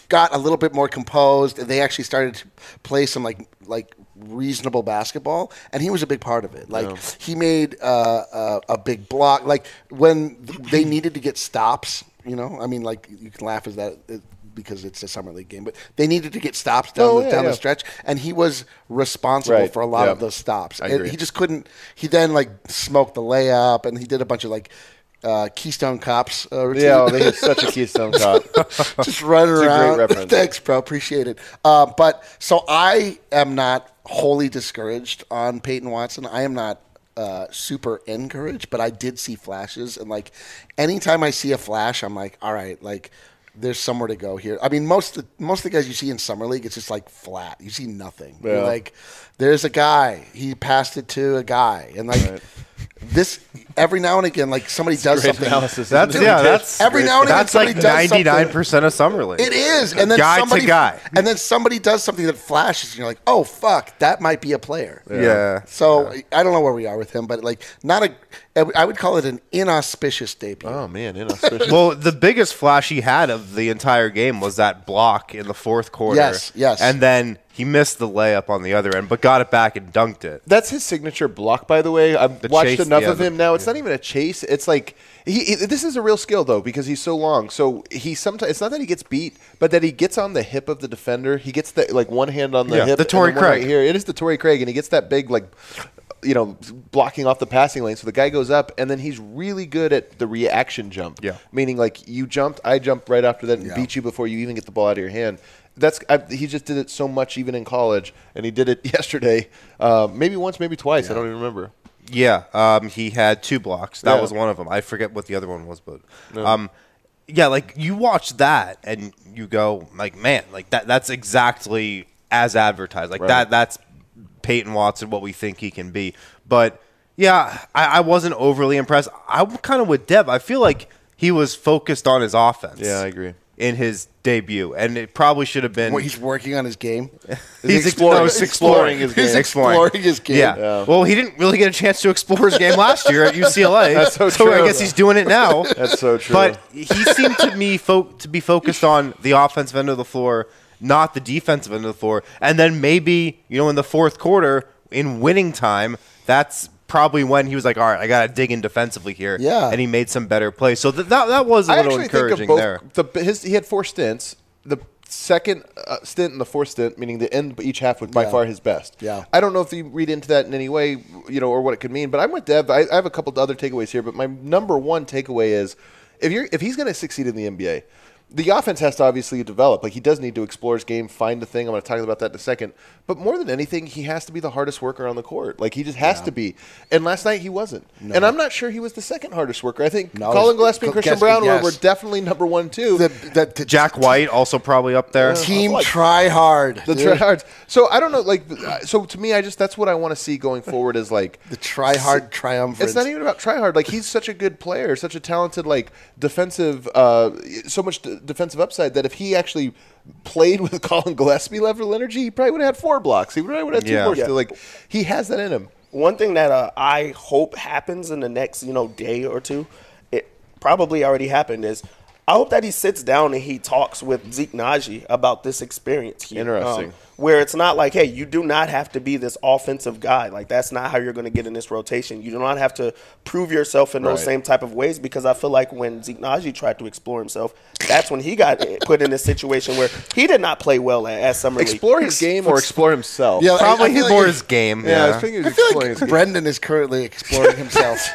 D: got a little bit more composed, and they actually started to play some like like reasonable basketball, and he was a big part of it. Like
A: Yeah.
D: he made uh, uh, a big block. Like when they needed to get stops, you know. I mean, like you can laugh as that. It, because it's a summer league game, but they needed to get stops down,
A: Oh,
D: the,
A: yeah,
D: down
A: yeah.
D: the stretch, and he was responsible
A: Right.
D: for a lot
A: Yeah.
D: of those stops.
A: I
D: And
A: agree.
D: he just couldn't. He then like smoked the layup, and he did a bunch of like uh, Keystone Cops. Uh, routine.
A: Yeah, well, they hit such a Keystone Cop.
D: just running
A: It's a great
D: around.
A: reference.
D: Thanks, bro. Appreciate it. Uh, but so I am not wholly discouraged on Peyton Watson. I am not uh, super encouraged, but I did see flashes, and like anytime I see a flash, I'm like, all right, like. There's somewhere to go here. I mean, most of the, most of the guys you see in summer league, it's just like flat. You see nothing. You're
A: Yeah.
D: like, there's a guy. He passed it to a guy, and like
A: Right.
D: this every now and again, like somebody does
A: Great
D: something.
A: analysis.
B: That's
A: isn't it?
B: yeah. That's
D: Every now and again,
B: that's like
D: somebody does something.
B: ninety-nine percent of summer league.
D: It is, and then
B: Guy to
D: somebody,
B: guy.
D: and then somebody does something that flashes, and you're like, "Oh fuck, that might be a player."
B: Yeah.
D: So I don't know where we are with him, but like, not a. I would call it an inauspicious debut.
A: Oh man, inauspicious.
B: Well, the biggest flash he had of the entire game was that block in the fourth quarter.
D: Yes, yes.
B: And then he missed the layup on the other end, but got it back and dunked it.
A: That's his signature block, by the way. I've
B: The
A: watched
B: chase,
A: enough
B: yeah,
A: of him
B: the-
A: now. It's not even a chase. It's like he, he. This is a real skill though because he's so long. So he sometimes it's not that he gets beat, but that he gets on the hip of the defender. He gets the like one hand on the
B: Yeah,
A: hip.
B: the
A: and
B: Torrey
A: then one
B: Craig.
A: right here. It is the Torrey Craig, and he gets that big like. You know, blocking off the passing lane. So the guy goes up, and then he's really good at the reaction jump.
B: Yeah.
A: Meaning, like, you jumped, I jumped right after that and
D: Yeah.
A: beat you before you even get the ball out of your hand. That's I, he just did it so much even in college, and he did it yesterday. Uh, maybe once, maybe twice. I don't even remember.
B: Yeah, um, he had two blocks. That
A: Yeah.
B: was one of them. I forget what the other one was, but um, yeah, like you watch that and you go, like, man, like that. That's exactly as advertised. Like
A: Right.
B: that. That's Peyton Watson, what we think he can be. But yeah, I, I wasn't overly impressed. I'm kind of with Deb. I feel like he was focused on his offense.
A: Yeah, I agree.
B: In his debut, and it probably should have been.
D: Well, he's working on his game.
A: He's
B: ex-
A: exploring-
B: no, he's
A: exploring his
D: He's
A: game.
D: exploring his game.
B: Yeah.
A: Yeah.
B: Well, he didn't really get a chance to explore his game last year at U C L A.
A: That's so
B: I
A: true.
B: guess he's doing it now.
A: That's so true.
B: But he seemed to me fo- to be focused on the offensive end of the floor, not the defensive end of the floor. And then maybe, you know, in the fourth quarter, in winning time, that's probably when he was like, all right, I got to dig in defensively here.
D: Yeah.
B: And he made some better plays. So th- that, that was a
A: I
B: little
A: actually think of
B: encouraging
A: both.
B: there.
A: The, his, he had four stints. The second uh, stint and the fourth stint, meaning the end of each half, was by
D: Yeah.
A: far his best.
D: Yeah.
A: I don't know if you read into that in any way, you know, or what it could mean. But I'm with Dev. I, I have a couple of other takeaways here, but my number one takeaway is if you're if he's going to succeed in the N B A. The offense has to obviously develop. Like, he does need to explore his game, find a thing. I'm going to talk about that in a second. But more than anything, he has to be the hardest worker on the court. Like, he just has to be. And last night, he wasn't. And I'm not sure he was the second hardest worker. I think
D: No,
A: Colin
D: it's-
A: Gillespie and Christian
D: Guess-
A: Brown were,
D: yes.
A: were definitely number one, too.
D: The, the, the
B: Jack White also probably up there.
D: team
A: like-
D: try hard.
A: the
D: dude.
A: tryhards. So, I don't know. Like, uh, so to me, I just, that's what I want to see going forward is like.
D: The try hard triumvirate.
A: It's not even about try hard. Like, he's such a good player, such a talented, like, defensive, uh, so much d- defensive upside that if he actually played with Colin Gillespie level energy, he probably would have had four blocks. He probably would have had two
B: Yeah.
A: more.
B: Yeah.
A: Still. Like, he has that in him.
E: One thing that uh, I hope happens in the next, you know, day or two, it probably already happened, is I hope that he sits down and he talks with Zeke Naji about this experience here.
A: Interesting.
E: Um, where it's not like, hey, you do not have to be this offensive guy. Like, that's not how you're going to get in this rotation. You do not have to prove yourself in those
A: Right.
E: same type of ways, because I feel like when Zeke Naji tried to explore himself, that's when he got put in a situation where he did not play well at, at Summer League.
A: Explore his game or explore himself.
D: Yeah, I-
B: Probably
D: I feel
B: more
D: like-
B: his game.
A: Yeah, I
B: Yeah.
A: was thinking he
D: I
A: was
D: feel
A: exploring his
D: like
A: game.
D: Brendan is currently exploring himself.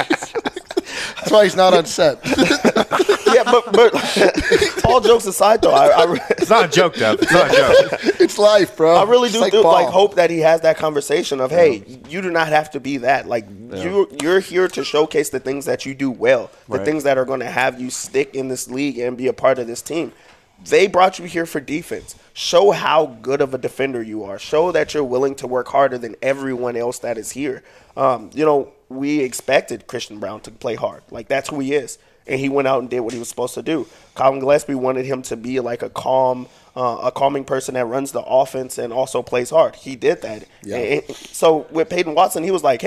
D: That's why he's not on set.
E: Yeah, but, but all jokes aside, though, I, I,
B: It's not a joke, Dev. It's not a joke.
D: It's life, bro.
E: I really
D: It's
E: do
D: like
E: do,
D: ball.
E: like hope that he has that conversation of, hey, you do not have to be that. Like, you you're here to showcase the things that you do well, the
A: Right.
E: things that are going to have you stick in this league and be a part of this team. They brought you here for defense. Show how good of a defender you are. Show that you're willing to work harder than everyone else that is here. Um, you know, we expected Christian Brown to play hard. Like, that's who he is. And he went out and did what he was supposed to do. Colin Gillespie wanted him to be like a calm, uh, a calming person that runs the offense and also plays hard. He did that.
D: Yeah.
E: And- and so with Peyton Watson, he was like, hey,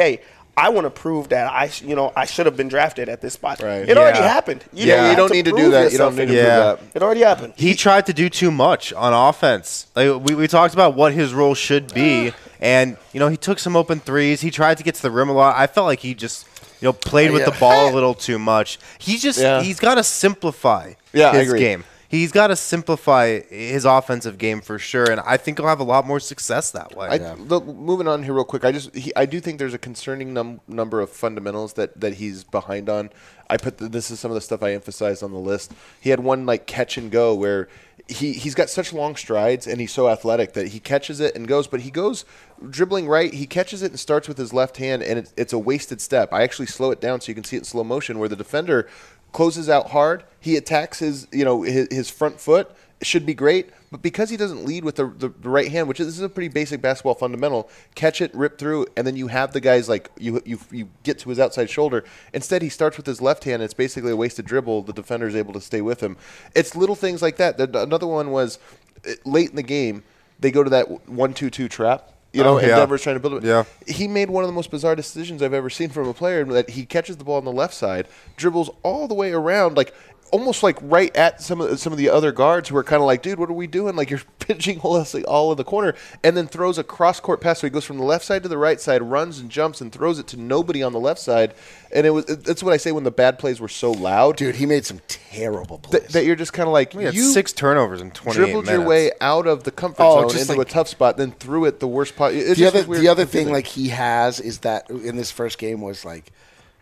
E: I want to prove that I, sh- you know, I should have been drafted at this spot.
A: Right.
E: It already
B: Yeah.
E: happened. You
B: Yeah,
E: don't,
B: you
E: have
A: don't need to do
E: prove
A: that. You don't
E: yourself
A: need to
E: anymore.
B: Yeah.
A: prove that.
E: It already happened.
B: He tried to do too much on offense. Like we, we talked about what his role should be, and you know he took some open threes. He tried to get to the rim a lot. I felt like he just you know played with
D: Yeah.
B: the ball a little too much. He's just
A: Yeah.
B: he's got to simplify
A: Yeah, I
B: his
A: agree.
B: game. He's got to simplify his offensive game for sure, and I think he'll have a lot more success that way.
A: I, look, moving on here real quick, I just he, I do think there's a concerning num- number of fundamentals that, that he's behind on. I put the, this is some of the stuff I emphasized on the list. He had one like catch and go where he he's got such long strides and he's so athletic that he catches it and goes, but he goes dribbling right. He catches it and starts with his left hand, and it, it's a wasted step. I actually slow it down so you can see it in slow motion where the defender closes out hard. He attacks his, you know, his, his front foot. It should be great, but because he doesn't lead with the, the, the right hand, which is, this is a pretty basic basketball fundamental, catch it, rip through, and then you have the guys like you you you get to his outside shoulder. Instead, he starts with his left hand. And it's basically a wasted dribble. The defender is able to stay with him. It's little things like that. The, another one was uh, late in the game, they go to that one two two trap. You know,
B: Oh,
A: and
B: yeah.
A: Denver's trying to build it.
B: Yeah.
A: He made one of the most bizarre decisions I've ever seen from a player that he catches the ball on the left side, dribbles all the way around, like almost like right at some of some of the other guards who are kind of like, dude, what are we doing? Like you're pitching all in the corner, and then throws a cross court pass. So he goes from the left side to the right side, runs and jumps and throws it to nobody on the left side. And it was that's what I say when the bad plays were so loud,
D: Dude, he made some terrible plays.
A: that, that you're just kind of like
B: He had
A: you
B: six turnovers in twenty-eight
A: dribbled
B: minutes.
A: your way out of the comfort
D: Oh,
A: zone
D: just
A: into
D: like-
A: a tough spot, then threw it the worst part. It's
D: the
A: just
D: other,
A: weird
D: the other thing
A: confusing.
D: like he has is that in this first game was like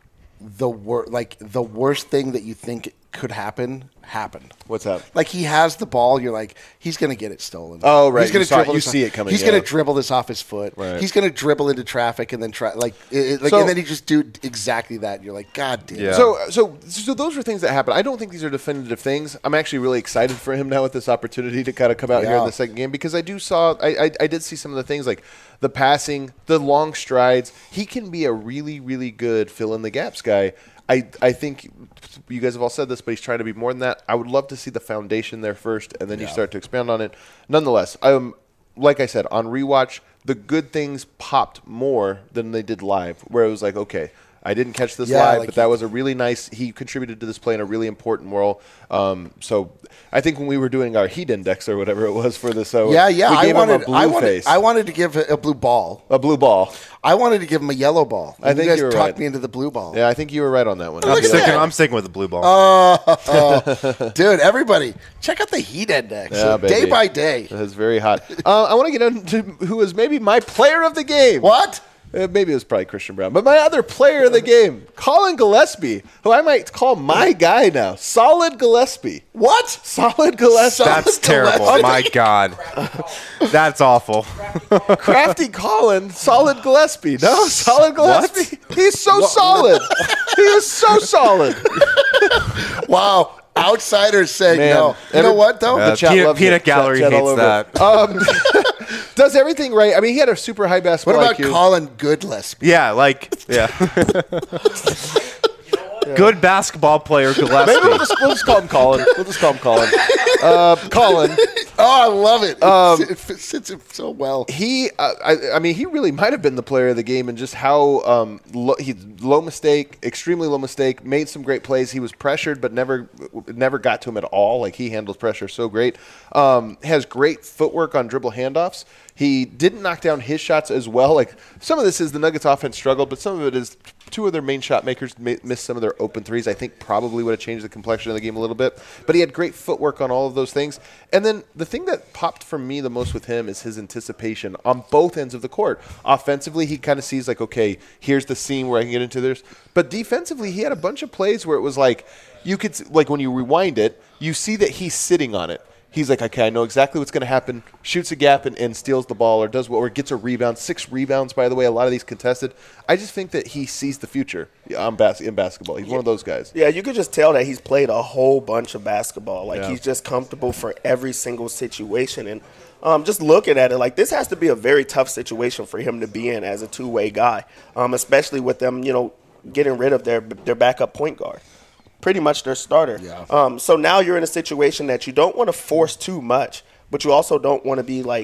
D: the wor- like the worst thing that you think could happen happened.
A: What's that?
D: Like he has the ball, you're like he's gonna get it stolen.
A: Oh, right.
D: He's gonna
A: You saw-
D: dribble
A: you
D: this
A: see
D: off-
A: it coming,
D: He's
A: yeah.
D: gonna dribble this off his foot.
A: Right.
D: He's gonna dribble into traffic and then try like, it, it- like
A: So-
D: and then he just do exactly that. And you're like, God damn.
B: Yeah.
A: So, so, so those were things that happened. I don't think these are definitive things. I'm actually really excited for him now with this opportunity to kind of come out here in
D: Yeah.
A: the second game because I do saw, I, I, I did see some of the things like the passing, the long strides. He can be a really, really good fill in the gaps guy. I, I think you guys have all said this, but he's trying to be more than that. I would love to see the foundation there first, and then you start to expand on it. Nonetheless, um, like I said, on rewatch, the good things popped more than they did live, where it was like, okay, I didn't catch this
D: Yeah,
A: live,
D: like
A: but that
D: he-
A: was a really nice. He contributed to this play in a really important role. Um, so I think when we were doing our heat index or whatever it was for this, so
D: Yeah, yeah.
A: we
D: I
A: gave
D: wanted,
A: him a blue
D: I wanted,
A: face,
D: I wanted to give a, a blue ball.
A: a blue ball.
D: I wanted to give him a yellow ball.
A: I
D: And
A: think
D: you guys
A: you were
D: talked
A: right.
D: me into the blue ball.
A: Yeah, I think you were right on that one.
B: I'm
D: Look at
B: sticking,
D: that.
B: I'm sticking with the blue ball.
D: Oh, dude! Everybody, check out the heat index
A: Yeah,
D: day
A: baby.
D: by day.
A: That's very hot. Uh, I want to get into who was maybe my player of the game.
D: What?
A: Uh, maybe it was probably Christian Brown, but my other player of the game, Colin Gillespie, who I might call my guy now, Solid Gillespie.
D: What?
A: Solid Gillespie.
B: That's terrible. My God. That's awful.
A: Crafty Colin, Solid Gillespie. No, Solid Gillespie. He's so solid. He is so solid.
D: Wow! Outsiders saying
A: Man,
D: no. You
A: every-
D: know what though?
B: Uh,
A: The chat
B: peanut
A: loves
B: peanut
A: it.
B: gallery
A: Chat- chat all
B: hates
A: over it.
B: that.
A: Um, does everything right. I mean, he had a super high
D: What
A: basketball
D: about
A: I Q.
D: Colin Goodlespie?
B: Yeah, like yeah. Good basketball player
A: Maybe we'll
B: Gillespie.
A: just, we'll just call him Colin. We'll just call him Colin. Uh, Colin.
D: Oh, I love it.
A: Um,
D: it fits fits it so well.
A: He, uh, I, I mean, he really might have been the player of the game, and just how um, low, he low mistake, extremely low mistake, made some great plays. He was pressured, but never, never got to him at all. Like he handles pressure so great. Um, has great footwork on dribble handoffs. He didn't knock down his shots as well. Like some of this is the Nuggets offense struggled, but some of it is two of their main shot makers ma- missed some of their open threes. I think probably would have changed the complexion of the game a little bit. But he had great footwork on all of those things. And then the thing that popped for me the most with him is his anticipation on both ends of the court. Offensively, he kind of sees like, okay, here's the seam where I can get into this. But defensively, he had a bunch of plays where it was like, you could, s- like when you rewind it, you see that he's sitting on it. He's like, okay, I know exactly what's going to happen. Shoots a gap and, and steals the ball, or does what, or gets a rebound. Six rebounds, by the way. A lot of these contested. I just think that he sees the future on bas- in basketball. He's one of those guys.
E: Yeah, you could just tell that he's played a whole bunch of basketball. Like
A: Yeah.
E: he's just comfortable for every single situation. And um, just looking at it, like this has to be a very tough situation for him to be in as a two-way guy, um, especially with them, you know, getting rid of their their backup point guard. Pretty much their starter.
D: Yeah.
E: Um, so now you're in a situation that you don't want to force too much, but you also don't want to be like,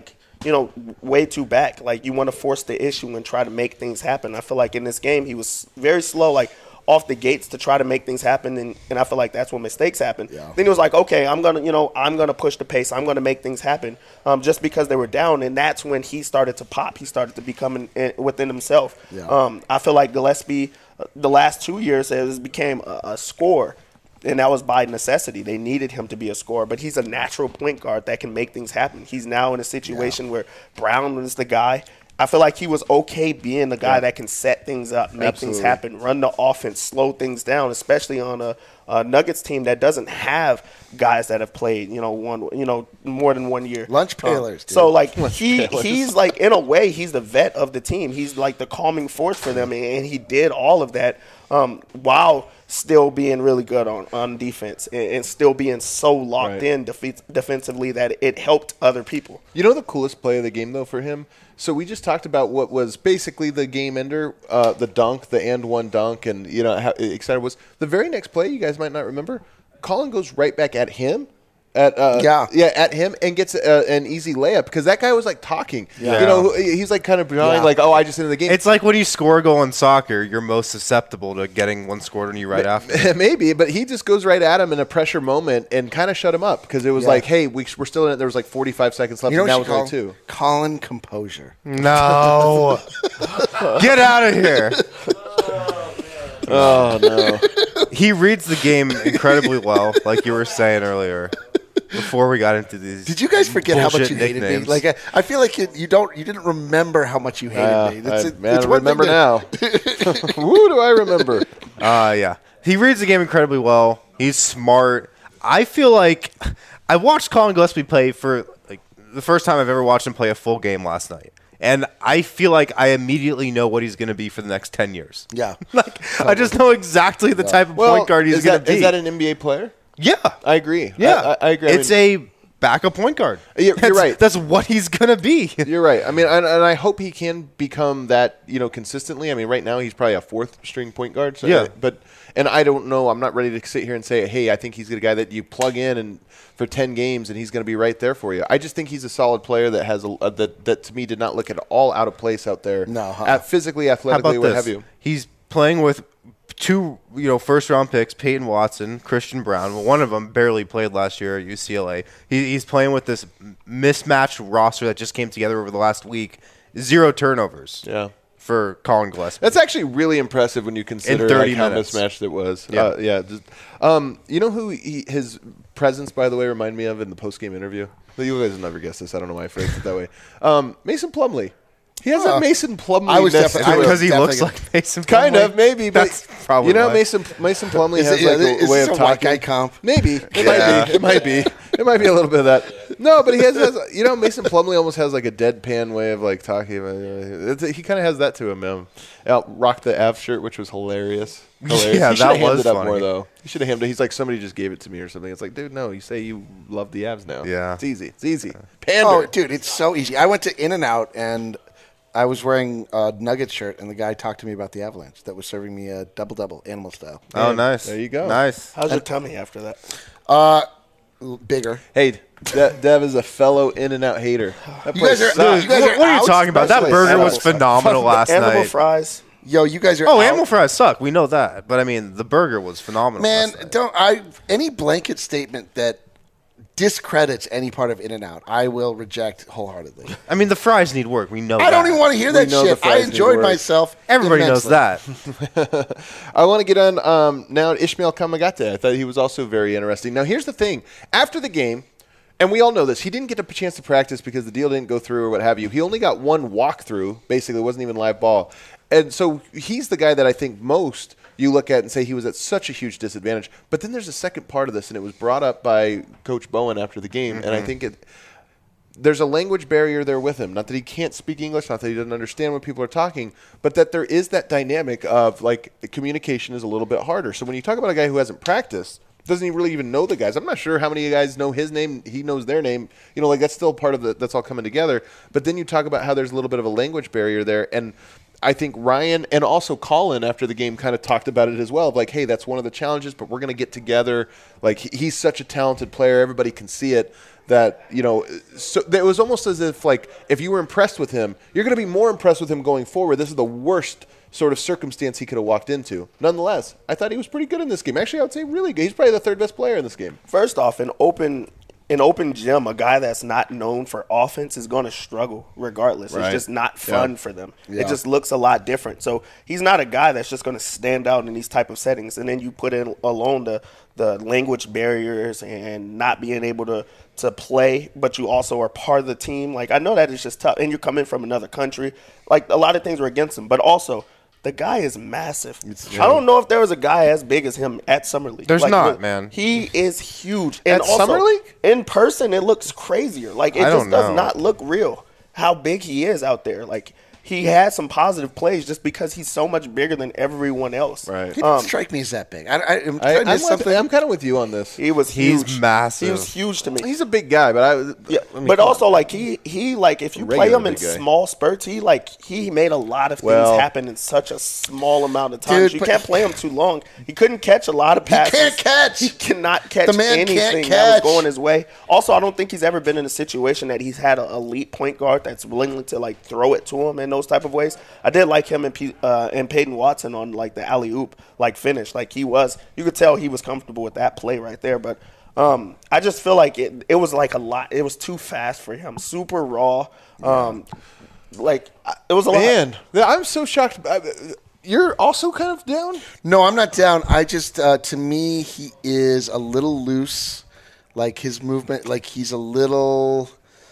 E: you know, way too back. Like, you want to force the issue and try to make things happen. I feel like in this game he was very slow, like, off the gates to try to make things happen, and, and I feel like that's when mistakes happen.
D: Yeah.
E: Then he was like, okay, I'm gonna, you know, I'm gonna push the pace. I'm gonna make things happen, um, just because they were down, and that's when he started to pop. He started to become in, in, within himself.
D: Yeah.
E: Um, I feel like Gillespie, uh, the last two years, has became a, a scorer. And that was by necessity. They needed him to be a scorer. But he's a natural point guard that can make things happen. He's now in a situation yeah. where Brown is the guy. I feel like he was okay being the guy yeah. that can set things up, make Absolutely. things happen, run the offense, slow things down, especially on a, a Nuggets team that doesn't have guys that have played, you know, one, you know, more than one year.
D: Lunch pailers. Um,
E: so like he he's like in a way he's the vet of the team. He's like the calming force for them, and he did all of that um, while still being really good on, on defense and, and still being so locked
A: right.
E: in defe- defensively that it helped other people.
A: You know the coolest play of the game, though, for him? So we just talked about what was basically the game ender, uh, the dunk, the and one dunk, and, you know, how excited was. The very next play, you guys might not remember, Colin goes right back at him. At, uh,
D: yeah,
A: yeah, at him and gets uh, an easy layup because that guy was like talking.
B: Yeah.
A: You know, he's like kind of behind, yeah. like, oh, I just ended the game.
B: It's like when you score a goal in soccer, you're most susceptible to getting one scored on you right after.
A: Maybe, but he just goes right at him in a pressure moment and kind of shut him up because it was yeah. like, hey, we, we're still in it. There was like forty-five seconds left,
D: you know
A: and now
D: it's
A: only two.
D: Colin composure.
B: No, get out of here.
A: Oh no,
B: he reads the game incredibly well, like you were saying earlier. Before we got into these,
D: did you guys forget how much you hated
B: nicknames.
D: me? Like I, I feel like you, you don't, you didn't remember how much you hated
A: uh,
D: me. It's,
A: I,
D: it,
A: man,
D: it's
A: I remember
D: to,
A: now. Woo, do I remember?
B: Uh, yeah, he reads the game incredibly well. He's smart. I feel like I watched Colin Gillespie play for like the first time I've ever watched him play a full game last night. And I feel like I immediately know what he's going to be for the next ten years.
D: Yeah.
B: like oh. I just know exactly the yeah. type of
A: well,
B: point guard he's going to be.
A: Is that an N B A player?
B: Yeah.
A: I agree.
B: Yeah.
A: I, I agree.
B: It's I mean, a backup point guard.
A: You're, you're right.
B: That's what he's going to be.
A: You're right. I mean, and, and I hope he can become that, you know, consistently. I mean, right now he's probably a fourth string point guard. So
B: yeah.
A: I, but, and I don't know. I'm not ready to sit here and say, hey, I think he's a guy that you plug in and for ten games and he's going to be right there for you. I just think he's a solid player that has a, a that, that to me did not look at all out of place out there.
D: No. Huh?
A: At physically, athletically, what have you.
B: He's playing with two, you know, first-round picks, Peyton Watson, Christian Brown. Well, one of them barely played last year at U C L A. He, he's playing with this mismatched roster that just came together over the last week. Zero turnovers.
A: Yeah.
B: For Colin Gillespie.
A: That's actually really impressive when you consider like how mismatched it was.
B: Yeah.
A: Uh, yeah. Just, um, you know who he, his presence, by the way, reminded me of in the post-game interview? You guys will never guess this. I don't know why I phrased it that way. Um, Mason Plumlee. He has
D: uh,
A: a Mason Plumlee.
D: I was definitely
B: because he
D: definitely
B: looks like Mason Plumlee.
A: Kind of, maybe, but
B: That's probably
A: you know,
B: why.
A: Mason Mason Plumlee
D: Is
A: has
D: it,
A: like
D: yeah,
A: a
D: is
A: way
D: this
A: of
D: a
A: talking.
D: white guy comp?
A: Maybe it
B: Yeah.
A: might be. It might be. It might be a little bit of that. No, but he has, has you know, Mason Plumlee almost has like a deadpan way of like talking. It's, he kind of has that to him. Man. Out rocked the Av shirt, which was hilarious. Hilarious.
B: Yeah,
A: he
B: that
A: should have
B: was
A: hammed it up
B: funny.
A: more though. He should have hammed it. He's like, somebody just gave it to me or something. It's like, dude, no. You say you love the Avs now.
B: Yeah.
A: It's easy. It's easy. Pander.
D: Oh, dude, it's so easy. I went to In-N-Out and I was wearing a Nuggets shirt, and the guy talked to me about the Avalanche that was serving me a double-double, animal style.
B: Oh, nice.
A: There you go.
B: Nice.
E: How's your tummy after that?
D: Uh, l- bigger.
A: Hey, De- Dev is a fellow In-N-Out hater. That
D: You
A: place
D: guys are-
A: sucks.
D: you guys
B: What,
D: are
B: what are you
D: out?
B: talking about? That
A: Especially
B: burger was
A: animal
B: phenomenal last
E: Animal
B: night.
E: fries.
D: Yo, you guys are
B: Oh,
D: out.
B: animal fries suck. We know that. But, I mean, the burger was phenomenal
D: Man,
B: last night.
D: don't I any blanket statement that discredits any part of In-N-Out, I will reject wholeheartedly.
B: I mean, the fries need work. We know that.
D: I don't even want to hear that
A: know the
D: shit. I
A: fries need
D: enjoyed
A: work.
D: myself.
B: Everybody knows
D: immensely.
B: that.
A: I want to get on um, now Ishmael Kamagate. I thought he was also very interesting. Now, here's the thing. After the game, and we all know this, he didn't get a chance to practice because the deal didn't go through or what have you. He only got one walkthrough. Basically, it wasn't even live ball. And so he's the guy that I think most you look at and say he was at such a huge disadvantage. But then there's a second part of this, and it was brought up by Coach Bowen after the game. Mm-hmm. And I think it there's a language barrier there with him. Not that he can't speak English, not that he doesn't understand when people are talking, but that there is that dynamic of, like, communication is a little bit harder. So when you talk about a guy who hasn't practiced, doesn't he really even know the guys? I'm not sure how many guys know his name. He knows their name. You know, like, that's still part of the – that's all coming together. But then you talk about how there's a little bit of a language barrier there. And I think Ryan and also Colin after the game kind of talked about it as well. Of like, hey, that's one of the challenges, but we're going to get together. Like he- he's such a talented player, everybody can see it. That you know, so it was almost as if like if you were impressed with him, you're going to be more impressed with him going forward. This is the worst sort of circumstance he could have walked into. Nonetheless, I thought he was pretty good in this game. Actually, I would say really good. He's probably the third best player in this game.
E: First off, an open an open gym, a guy that's not known for offense is going to struggle regardless.
A: Right.
E: It's just not fun
A: Yeah.
E: for them.
D: Yeah.
E: It just looks a lot different. So he's not a guy that's just going to stand out in these type of settings. And then you put in alone the the language barriers and not being able to to play, but you also are part of the team. Like I know that is just tough. And you're coming from another country. Like a lot of things were against him, but also. The guy is massive. I don't know if there was a guy as big as him at Summer League.
B: There's
E: Like,
B: not,
E: look,
B: man.
E: He is huge. And
A: At
E: also,
A: Summer League?
E: in person, it looks crazier. Like, it
B: I
E: just
B: don't
E: does
B: know.
E: not look real how big he is out there. Like, he had some positive plays just because he's so much bigger than everyone else.
A: Right.
D: He didn't strike me as that big. I, I, I'm,
A: I,
D: I
A: I'm,
D: miss
A: with,
D: something.
A: I'm kind of with you on this.
E: He was
B: He's
E: huge.
B: massive.
E: He was huge to me.
A: He's a big guy, but I.
E: Yeah,
A: I mean,
E: but
A: come
E: also
A: on.
E: like he he like if you play
A: Regular
E: him in
A: big guy.
E: small spurts, he like he made a lot of things
A: Well-
E: happen in such a small amount of time.
D: Dude,
E: you
D: but-
E: can't play him too long. He couldn't catch a lot of passes.
D: can't catch.
E: He cannot catch
D: The man can't
E: anything that was
D: catch.
E: going his way. Also, I don't think he's ever been in a situation that he's had an elite point guard that's willing to like throw it to him in those type of ways. I did like him and P- uh, and Peyton Watson on like the alley oop like finish. Like he was, you could tell he was comfortable with that play right there. But um, I just feel like it it was like a lot. It was too fast for him. Super raw. Um, like I- it was a lot.
A: Man, I'm so shocked. I- You're also kind of down?
D: No, I'm not down. I just, uh, to me, he is a little loose. Like his movement, like he's a little,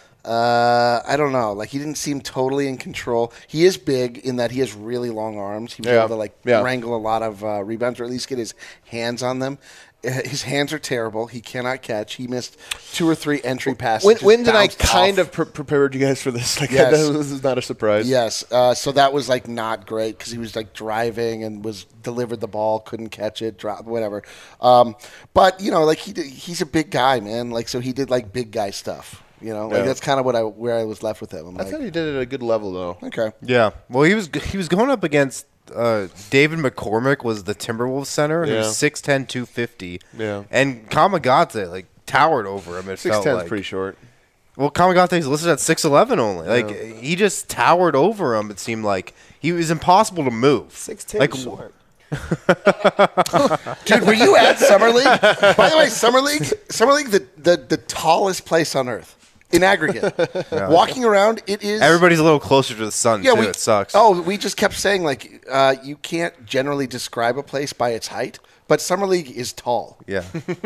D: uh, I don't know. Like he didn't seem totally in control. He is big in that he has really long arms. He was
A: Yeah.
D: able to like
A: Yeah.
D: wrangle a lot of uh, rebounds or at least get his hands on them. Uh, His hands are terrible. He cannot catch. He missed two or three entry passes.
A: When,
D: just
A: when did I
D: bounced
A: kind
D: off.
A: of pre- prepared you guys for this? Like,
D: Yes.
A: this is not a surprise.
D: Yes. Uh, so that was like not great because he was like driving and was delivered the ball, couldn't catch it, drop whatever. Um, but you know, like he did, he's a big guy, man. Like so he did like big guy stuff. You know, like
A: Yeah.
D: that's kind of what I where I was left with him. I'm
A: I
D: like,
A: thought he did it at a good level, though.
D: okay.
B: Yeah. Well, he was he was going up against uh, David McCormick was the Timberwolves center,
A: Yeah.
B: who's six ten, two fifty.
A: Yeah.
B: And Kamagate like towered over him. It
A: Six
B: felt
A: ten's
B: like.
A: pretty short.
B: Well, Kamagate's listed at six eleven only. Like he just towered over him. It seemed like he was impossible to move.
E: Six ten
B: Like
E: short.
D: Dude, were you at Summer League? By the way, Summer League, Summer League, the, the, the tallest place on earth in aggregate. Walking around, it is.
B: everybody's a little closer to the sun
D: yeah,
B: too.
D: we,
B: It sucks.
D: Oh, we just kept saying like uh, you can't generally describe a place by its height, but Summer League is tall.
B: Yeah.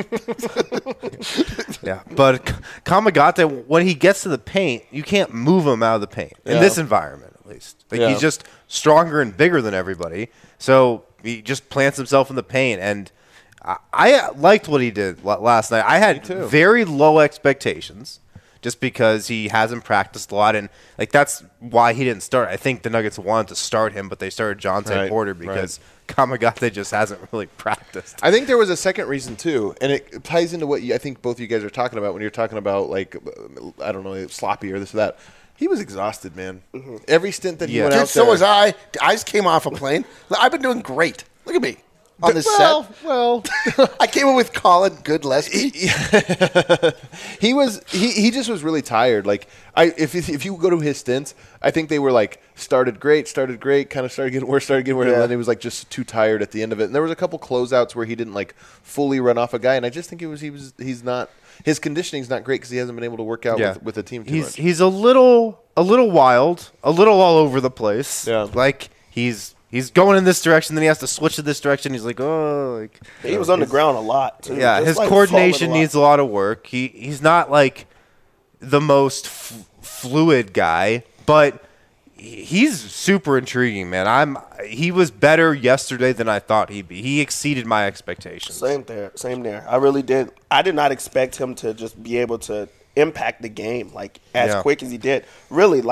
B: yeah. But K- Kamagate, when he gets to the paint, you can't move him out of the paint. In
A: Yeah.
B: this environment, at least. Like
A: Yeah.
B: he's just stronger and bigger than everybody. So he just plants himself in the paint. And I, I liked what he did la- last night. I had
A: too.
B: very low expectations. Just because he hasn't practiced a lot, and like that's why he didn't start. I think the Nuggets wanted to start him, but they started Jonte
A: Right,
B: Porter because Kamagate just hasn't really practiced.
A: I think there was a second reason too, and it ties into what you, I think both of you guys are talking about when you're talking about like I don't know sloppy or this or that. He was exhausted, man. Every stint that he
B: Yeah.
A: went
D: Dude,
A: out
D: so
A: there.
D: was I. I just came off a plane. I've been doing great. Look at me on this
A: well,
D: set.
A: well,
D: I came in with Colin Goodlesky.
A: he was he, he just was really tired. Like I if if you go to his stints, I think they were like started great, started great, kind of started getting worse, started getting worse, and
E: Yeah.
A: then he was like just too tired at the end of it. And there was a couple closeouts where he didn't like fully run off a guy, and I just think it was he was he's not his conditioning's not great because he hasn't been able to work out with, with the team too
B: he's
A: much.
B: he's a little a little wild, a little all over the place.
A: Yeah.
B: Like he's he's going in this direction, then he has to switch to this direction. He's like, oh, like
E: He was on the ground a lot too.
B: yeah.
E: Just,
B: His
E: like,
B: coordination
E: falling a lot.
B: needs a lot of work. He he's not like the most f- fluid guy, but he's super intriguing, man. I'm he was better yesterday than I thought he'd be. He exceeded my expectations.
E: Same there, same there. I really did. I did not expect him to just be able to impact the game like as
B: Yeah.
E: quick as he did. Really, like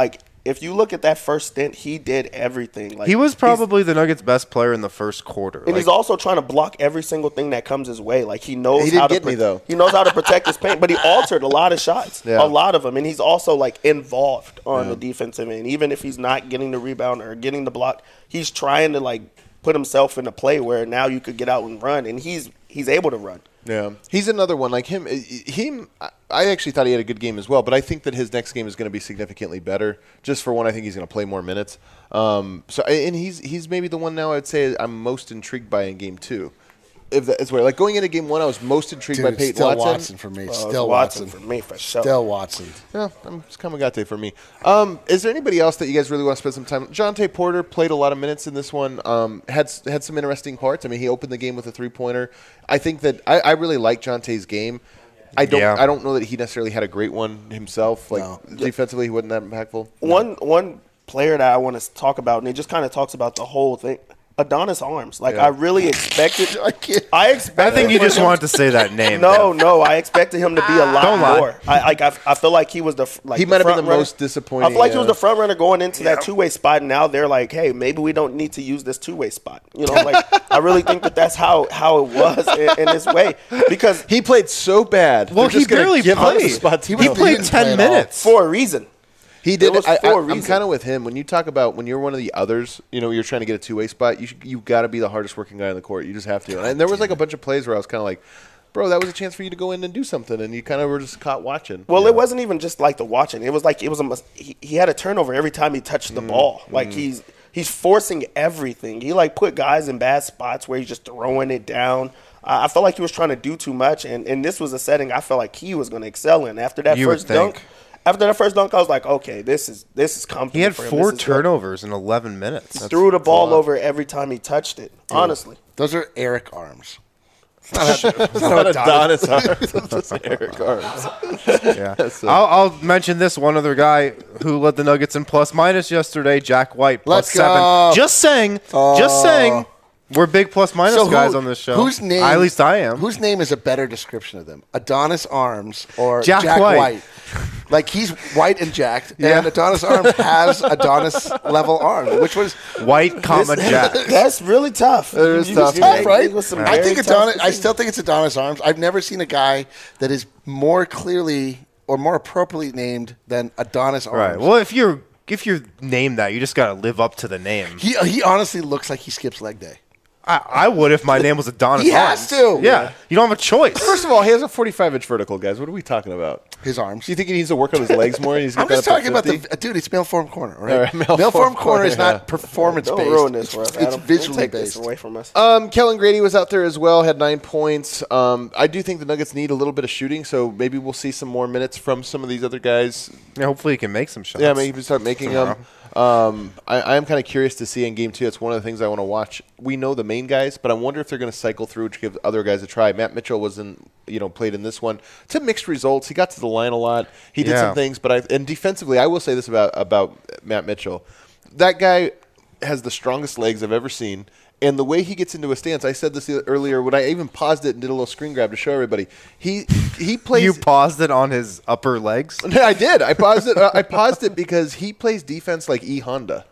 E: if you look at that first stint, he did everything. Like
B: He was
E: he's-
B: probably the Nuggets' best player in the first quarter.
E: And
B: Like,
E: he's also trying to block every single thing that comes his way. Like he knows
A: He didn't
E: how to
A: get me, though.
E: He knows how to protect his paint, but he altered a lot of shots,
A: Yeah.
E: a lot of them, and he's also like involved on the defensive end. Even if he's not getting the rebound or getting the block, he's trying to like put himself in a play where now you could get out and run, and he's he's able to run.
A: Yeah, he's another one like him. Him, I actually thought he had a good game as well, but I think that his next game is going to be significantly better. Just for one, I think he's going to play more minutes. Um, so, and he's he's maybe the one now I'd say I'm most intrigued by in game two. If that's where, like going into game one, I was most intrigued
D: Dude,
A: by Peyton
D: still
A: Watson.
D: Watson for me.
E: Uh,
D: Still
E: Watson
D: Watson.
E: for me for sure.
D: Still Watson.
A: Yeah, I'm it's Kamagate for me. Um, is there anybody else that you guys really want to spend some time? Jonte Porter played a lot of minutes in this one. Um, had had some interesting parts. I mean, he opened the game with a three pointer. I think that I, I really like Jonte's game. I don't.
B: Yeah.
A: I don't know that he necessarily had a great one himself. Like
D: No.
A: defensively, he wasn't that impactful.
E: One one player that I want to talk about, and it just kind of talks about the whole thing. Adonis Arms. Like
A: Yeah.
E: I really expected.
D: I can't-
E: I
B: I
E: expected.
B: think you
E: for
B: just
E: him-
B: wanted to say that name.
E: No, no. I expected him to be a lot
B: Don't lie.
E: more. I like. I, I feel like he was the f- like.
A: He
E: the
A: might have been
E: front
A: the
E: runner.
A: most disappointing,
E: I feel like he was
A: uh,
E: the front runner going into that two way spot, and now they're like, hey, maybe we don't need to use this two way spot. You know, like I really think that that's how how it was in, in this way because
A: He played so bad.
B: Well,
A: They're
B: he
A: just gonna
B: barely
A: give up the
B: played.
A: spots
B: He,
A: he
B: played
D: didn't play
B: ten
D: at all.
B: minutes.
E: for a reason.
A: He did.
E: It was
A: I,
E: for a
A: I, I'm
E: reason.
A: kind of with him. When you talk about when you're one of the others, you know, you're trying to get a two way spot. You should, you got to be the hardest working guy on the court. You just have to. And there was like a bunch of plays where I was kind of like, bro, that was a chance for you to go in and do something, and you kind of were just caught watching.
E: Well,
A: Yeah.
E: it wasn't even just like the watching. It was like it was a mis- he, he had a turnover every time he touched the
A: Mm,
E: ball. Like he's he's forcing everything. He like put guys in bad spots where he's just throwing it down. Uh, I felt like he was trying to do too much, and, and this was a setting I felt like he was going to excel in. After that
B: You would
E: first dunk,
B: think.
E: after that first dunk, I was like, okay, this is this is comfortable.
B: He had
E: for him.
B: four
E: This is good.
B: turnovers in eleven minutes.
E: Threw the ball over every time he touched it. Honestly,
D: Those are Eric Arms.
A: It's not Adonis Arms. It's Eric Arms.
B: Yeah.
A: So-
B: I'll, I'll mention this one other guy who led the Nuggets in plus minus yesterday, Jack White, plus
D: Let's
B: seven.
D: go.
B: Just saying. Just saying. We're big plus minus
D: So who-
B: guys on this show.
D: Whose name?
B: At least I am.
D: Whose name is a better description of them? Adonis Arms or
B: Jack
D: Jack,
B: White.
D: White. Like he's white and jacked,
B: Yeah.
D: and Adonis Arms has Adonis level arms, which was
B: White, comma, Jack.
E: that's really tough.
A: It is
E: You-
A: tough,
E: you
A: man.
E: make-
D: right.
E: it was some
D: I
E: very
D: think
E: tough
D: Adonis. I
E: decisions.
D: still think it's Adonis Arms. I've never seen a guy that is more clearly or more appropriately named than Adonis Arms.
B: Right. Well, if you're if you're named that, you just got to live up to the name.
D: he he honestly looks like he skips leg day.
B: I, I would if my name was Adonis
D: He
B: Arms.
D: has to.
B: Yeah. You don't have a choice.
A: First of all, he has a forty-five inch vertical, guys. What are we talking about?
D: His arms.
A: Do you think he needs to work on his legs more? He's
D: I'm
A: got
D: just
A: that up to
D: talking about
A: fifty?
D: the dude. It's male form corner, all right?
A: All right, male
D: male,
A: form
D: form corner is
A: corner,
D: not
A: yeah.
D: performance
E: Don't
D: based.
E: ruin this for us.
D: It's, it's
E: Adam. Don't
D: visually
E: take this
D: based.
E: away from us.
A: Um, Kellen Grady was out there as well, had nine points. Um, I do think the Nuggets need a little bit of shooting, so maybe we'll see some more minutes from some of these other guys.
B: Yeah, hopefully he can make some shots.
A: Yeah, maybe start making them. Um, I, I am kind of curious to see in game two. It's one of the things I want to watch. We know the main guys, but I wonder if they're going to cycle through to give other guys a try. Matt Mitchell wasn't, you know, played in this one. To mixed results. He got to the line a lot. He did
B: Yeah.
A: some things, but I and defensively, I will say this about about Matt Mitchell. That guy has the strongest legs I've ever seen. And the way he gets into a stance, I said this earlier when I even paused it and did a little screen grab to show everybody. He he plays.
B: You paused it on his upper legs.
A: I did. I paused it. Uh, I paused it because he plays defense like E Honda.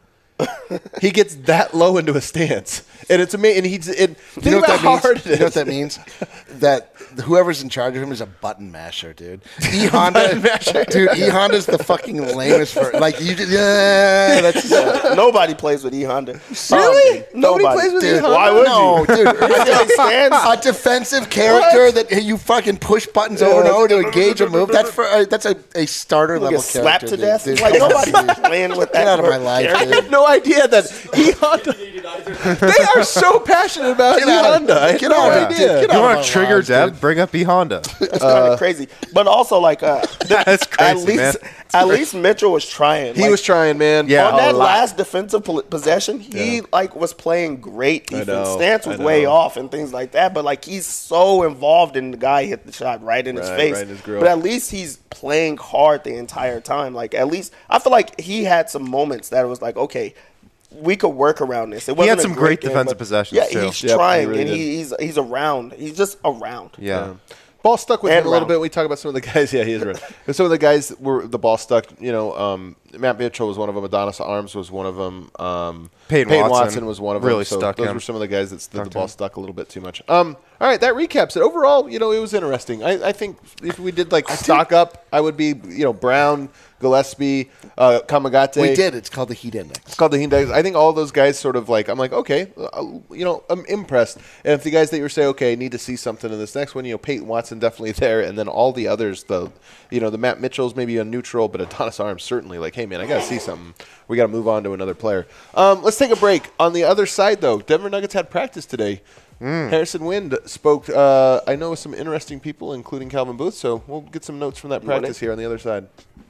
A: He gets that low into a stance, and it's amazing. And he's it. Think
D: You know what
A: about
D: that
A: how
D: means?
A: hard it is.
D: You know what that means? That whoever's in charge of him is a button masher, dude. E Honda, dude. E Honda's the fucking lamest for like you. Just, yeah, that's
E: Nobody plays with E Honda.
A: Really?
E: Um,
A: Nobody plays with E
E: Dude,
A: Honda?
E: Why would
D: no,
E: you?
D: dude.
E: He stands.
D: A defensive character that you fucking push buttons over and over to engage a move. That's for uh, that's a, a starter
E: He'll
D: level
E: get slapped
D: character.
E: to death.
D: dude.
E: Like nobody's playing with that.
D: Get out of my life,
E: character.
A: I
D: dude.
A: had no idea that E Honda. They are so passionate about E
D: Get out of-
A: Honda. I had
D: get
A: no
D: out of-
A: idea.
D: get
B: You
D: out
B: want
D: of
B: to
D: my
B: trigger
D: lives,
B: Deb?
D: dude.
B: Bring up E Honda.
E: That's kind of crazy. But also, like, uh,
B: That's
E: at
B: crazy,
E: least
B: man.
E: at least Mitchell was trying.
A: He
E: Like,
A: was trying, man.
B: Yeah.
E: on that
B: a lot.
E: last defensive pol- possession, he like was playing great defense.
A: know,
E: Stance was
A: I
E: way
A: know.
E: off and things like that. But like he's so involved in the guy hit the shot right in his
A: Right,
E: face.
A: right in his grill.
E: But at least he's playing hard the entire time. Like at least I feel like he had some moments that it was like, okay, we could work around this. It
B: He had
E: wasn't a
B: some great
E: game,
B: defensive
E: but-
B: possessions,
E: Yeah,
B: too.
E: he's
A: Yep, he
E: trying
A: really
E: and
A: did.
E: he, he's he's around. He's just around.
B: Yeah.
A: Ball stuck with
E: And
A: him a little
E: round.
A: bit. We talk about some of the guys. Yeah, he is right. But some of the guys were the ball stuck. You know, um, Matt Mitchell was one of them. Adonis Arms was one of them. Um,
B: Peyton
A: Watson.
B: Watson
A: was one of them.
B: really
A: so
B: stuck
A: those
B: him.
A: were some of the guys that the, the
B: Stuck
A: ball
B: him.
A: stuck a little bit too much. Um, all right, that recaps it. Overall, you know, it was interesting. I, I think if we did like stock up, I would be, you know, Brown, Gillespie, uh, Kamagate.
D: We did. It's called the Heat Index.
A: It's called the Heat Index. I think all those guys sort of like, I'm like, okay, uh, you know, I'm impressed. And if the guys that you were saying, okay, I need to see something in this next one, you know, Peyton Watson definitely there. And then all the others, the, you know, the Matt Mitchells maybe a neutral, but Adonis Arms certainly like, hey, man, I got to see something. We got to move on to another player. Um, let's take a break. On the other side, though, Denver Nuggets had practice today. Mm. Harrison Wind spoke, uh, I know, with some interesting people, including Calvin Booth. So we'll get some notes from that practice here on the other side.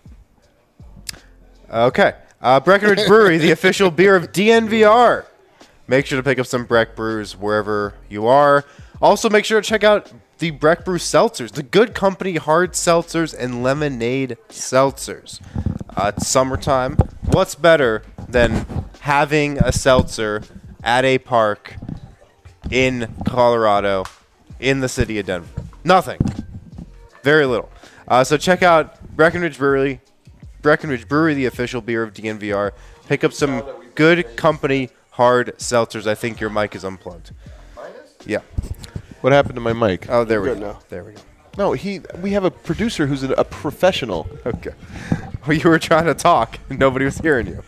B: Okay. Uh, Breckenridge Brewery, the official beer of D N V R. Make sure to pick up some Breck Brews wherever you are. Also, make sure to check out the Breck Brew Seltzers, the Good Company hard seltzers and lemonade seltzers. Uh, it's summertime. What's better than having a seltzer at a park in Colorado, in the city of Denver? Nothing. Very little. Uh, so check out Breckenridge Brewery. Breckenridge Brewery, the official beer of D N V R. Pick up some Good Company hard seltzers. I think your mic is unplugged. Yeah.
A: What happened to my mic?
B: Oh, there we
E: Good
B: go.
E: now.
B: There we go.
A: No, he. We have a producer who's a, a professional.
B: Okay. Well, you were trying to talk, and nobody was hearing you.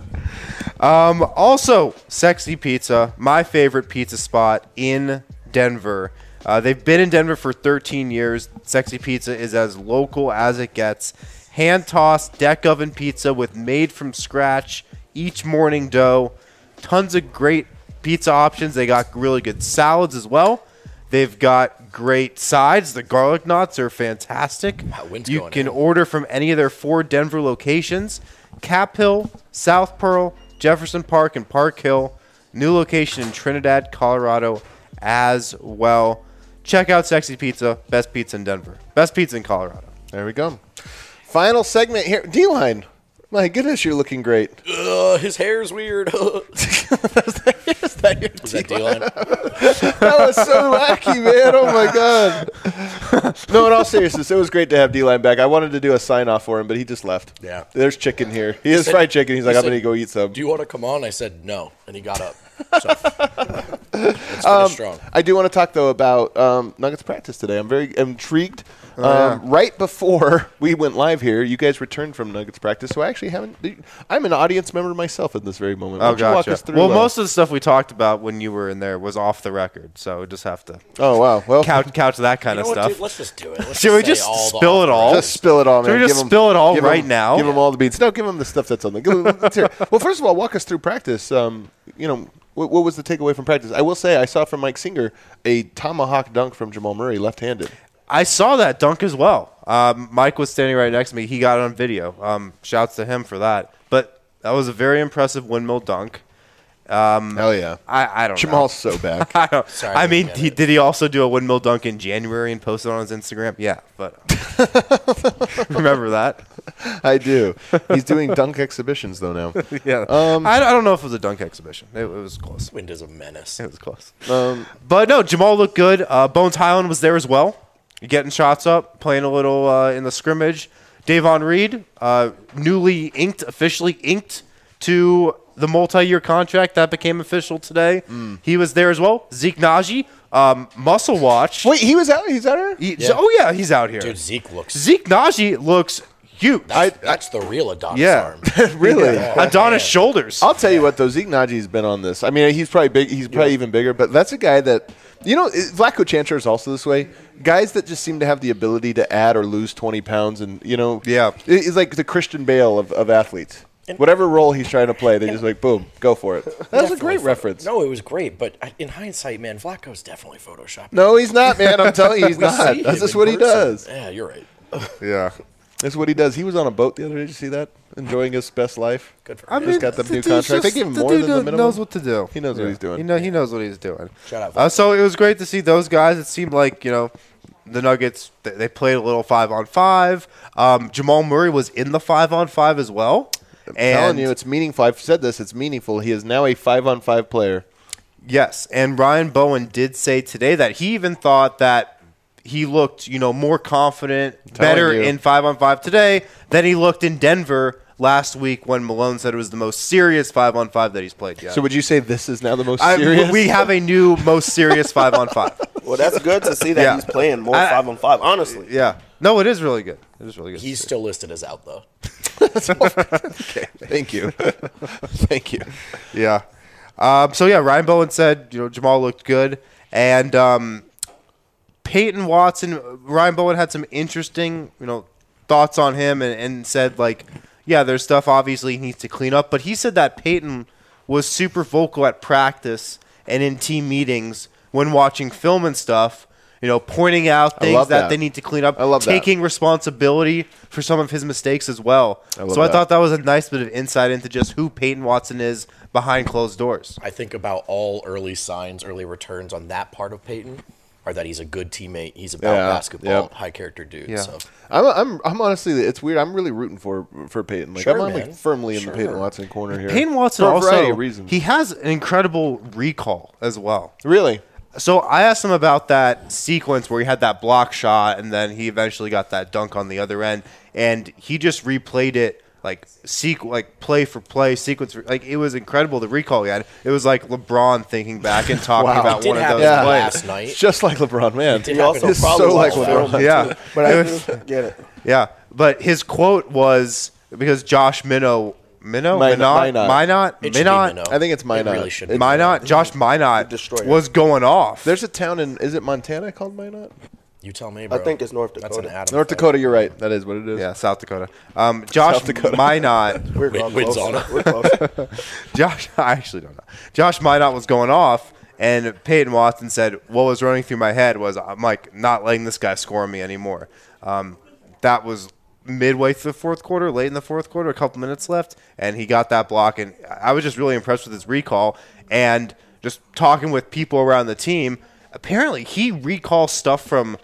B: Um, also, Sexy Pizza, my favorite pizza spot in Denver. Uh, they've been in Denver for thirteen years. Sexy Pizza is as local as it gets. Hand-tossed deck oven pizza with made-from-scratch each morning dough. Tons of great pizza options. They got really good salads as well. They've got great sides. The garlic knots are fantastic.
F: Wow, wind's
B: you
F: going
B: can
F: in.
B: order from any of their four Denver locations: Cap Hill, South Pearl, Jefferson Park, and Park Hill. New location in Trinidad, Colorado as well. Check out Sexy Pizza, best pizza in Denver. Best pizza in Colorado.
A: There we go. Final segment here. D-Line. My goodness, you're looking great.
F: Uh, his hair's weird.
A: Is that your
F: Is that D-line?
A: That was so wacky, man. Oh, my God. No, in all seriousness, it was great to have D-Line back. I wanted to do a sign-off for him, but he just left.
F: Yeah.
A: There's chicken here. He has
F: said-
A: fried chicken. He's
F: he
A: like, I'm
F: said,
A: going to go eat some.
F: Do you want to come on? I said no, and he got up. So let's finish strong.
A: I do want to talk, though, about um, Nuggets practice today. I'm very intrigued. Um, right before we went live here, you guys returned from Nuggets practice, so I actually haven't – I'm an audience member myself in this very moment. Why
B: Oh,
A: don't you walk
B: gotcha.
A: us through,
B: Well,
A: uh,
B: most of the stuff we talked about when you were in there was off the record, so we just have to
A: Oh, wow. Well,
B: couch, couch that kind
F: You know
B: of
F: what,
B: stuff.
F: dude? Let's just do it. Let's
B: Should we
F: say
B: just
F: all the
B: spill it
F: off-
B: all?
A: just spill it all, man.
B: Should we just
A: Give 'em-
B: spill it all
A: give 'em-
B: right now?
A: Give them all the beats. No, give them the stuff that's on the – let's hear it. Well, first of all, walk us through practice. Um, you know, what, what was the takeaway from practice? I will say I saw from Mike Singer a tomahawk dunk from Jamal Murray left-handed.
B: I saw that dunk as well. Um, Mike was standing right next to me. He got it on video. Um, shouts to him for that. But that was a very impressive windmill dunk.
A: Hell yeah.
B: I, I don't
A: Jamal's
B: know.
A: so back.
B: I, don't,
F: Sorry,
B: I
F: I
B: mean,
F: didn't
B: he,
F: get it.
B: did he also do a windmill dunk in January and post it on his Instagram? Yeah, but remember that?
A: I do. He's doing dunk exhibitions, though, now.
B: Yeah.
A: Um,
B: I, I don't know if it was a dunk exhibition. It, it was close.
F: Wind is a menace.
B: It was close.
A: Um,
B: But no, Jamal looked good. Uh, Bones Highland was there as well, getting shots up, playing a little uh, in the scrimmage. Davon Reed, uh, newly inked, officially inked to the multi-year contract that became official today.
A: Mm.
B: He was there as well. Zeke Naji, um, Muscle Watch.
A: wait, he was out? He's out here?
B: He-
F: Yeah.
B: Oh yeah, he's out here.
F: Dude, Zeke looks.
B: Zeke Naji looks huge.
F: That's, that's the real Adonis
B: Yeah.
F: arm.
A: Really?
B: Adonis shoulders.
A: I'll tell you what, though, Zeke Naji's been on this. I mean, he's probably big. He's probably even bigger, but that's a guy that, you know, Vlatko Chancer is also this way. Guys that just seem to have the ability to add or lose twenty pounds and, you know,
B: Yeah.
A: he's like the Christian Bale of, of athletes. Whatever role he's trying to play, they just like, boom, go for it. That was a
F: Definitely
A: great
F: photo-
A: reference.
F: No, it was great, but I- in hindsight, man, Vlatko's definitely photoshopped.
A: No, he's not, man. I'm telling you, he's
F: We
A: not.
F: see
A: That's
F: him
A: just
F: in
A: what he
F: person.
A: does.
F: Yeah, you're right.
A: Yeah. That's what he does. He was on a boat the other day. Did you see that? Enjoying his best life.
F: Good for
B: I
F: him.
A: Just got the new
B: dude's
A: contract. They
B: just-
A: gave him
B: the
A: more
B: dude
A: than the minimum.
B: knows what to do.
A: He knows what he's doing.
B: He, know, he knows what he's doing.
F: Shout out.
B: Uh, so it was great to see those guys. It seemed like, you know, the Nuggets, they, they played a little five-on-five. Um, Jamal Murray was in the five-on-five as well.
A: I'm
B: and
A: telling you, it's meaningful. I've said this. It's meaningful. He is now a five-on-five player.
B: Yes, and Ryan Bowen did say today that he even thought that he looked, you know, more confident,
A: telling
B: better
A: you.
B: in five on five today than he looked in Denver last week when Malone said it was the most serious five on five that he's played yet.
A: So would you say this is now the most
B: I-
A: serious?
B: we have a new most serious five on five.
E: Well, that's good to see that
B: Yeah.
E: he's playing more
B: I-
E: five on five. Honestly,
B: Yeah. No, it is really good. It is really good.
F: He's still listed as out though.
A: Thank you. Thank you.
B: Yeah. Um, so yeah, Ryan Bowen said, you know, Jamal looked good, and um, Peyton Watson, Ryan Bowen had some interesting, you know, thoughts on him, and, and said like, yeah, there's stuff obviously he needs to clean up, but he said that Peyton was super vocal at practice and in team meetings when watching film and stuff. You know, pointing out
A: I
B: things
A: love
B: that.
A: that.
B: they need to clean up,
A: I love that.
B: taking responsibility for some of his mistakes as well.
A: I love
B: so I
A: that.
B: thought that was a nice bit of insight into just who Peyton Watson is behind closed doors.
F: I think about all early signs, early returns on that part of Peyton are that he's a good teammate. He's about
A: Yeah,
F: basketball,
A: yep.
F: high character dude.
B: Yeah.
F: So
A: I'm, I'm, I'm honestly, it's weird. I'm really rooting for for Peyton. Like
F: Sure,
A: I'm like
F: man.
A: firmly in
F: Sure.
A: the Peyton Watson corner here.
B: Peyton Watson
A: for a
B: also,
A: variety of reasons.
B: he has an incredible recall as well.
A: really.
B: So I asked him about that sequence where he had that block shot and then he eventually got that dunk on the other end, and he just replayed it like sequ- like play for play, sequence for, like it was incredible the recall he had. It was like LeBron thinking back and talking
A: Wow.
B: about
F: It did
B: one of
F: happen
B: those
A: Yeah.
B: plays.
F: last night.
A: It's just like LeBron, man.
F: did
E: he also
A: It's
E: probably
A: so like
E: watched
A: LeBron.
E: film.
B: Yeah,
E: But I
B: It
E: do
B: was-
E: get it.
B: yeah. But his quote was because Josh Minnow, Minnow,
A: Min-
B: Minot,
A: Minot.
B: Minot,
F: It should be
B: Minot,
F: Minot.
A: I think it's
F: It
A: Minot.
F: really should be.
B: Minot, Josh Minot
E: Destroyer.
B: was going off.
A: There's a town in, is it Montana called Minot?
F: You tell me,
E: I
F: bro.
E: think it's North
F: That's an
E: Dakota.
F: Adam.
A: North
F: fact.
A: Dakota, you're right. That is what it is.
B: Yeah, South Dakota. Um, Josh
A: South Dakota.
B: Minot,
E: We're
F: Win-
E: close.
F: wins on it.
E: We're close.
B: Josh, I actually don't know. Josh Minot was going off, and Peyton Watson said, "What was running through my head was I'm like not letting this guy score on me anymore." Um, that was midway through the fourth quarter, late in the fourth quarter, a couple minutes left, and he got that block. And I was just really impressed with his recall and just talking with people around the team. Apparently, he recalls stuff from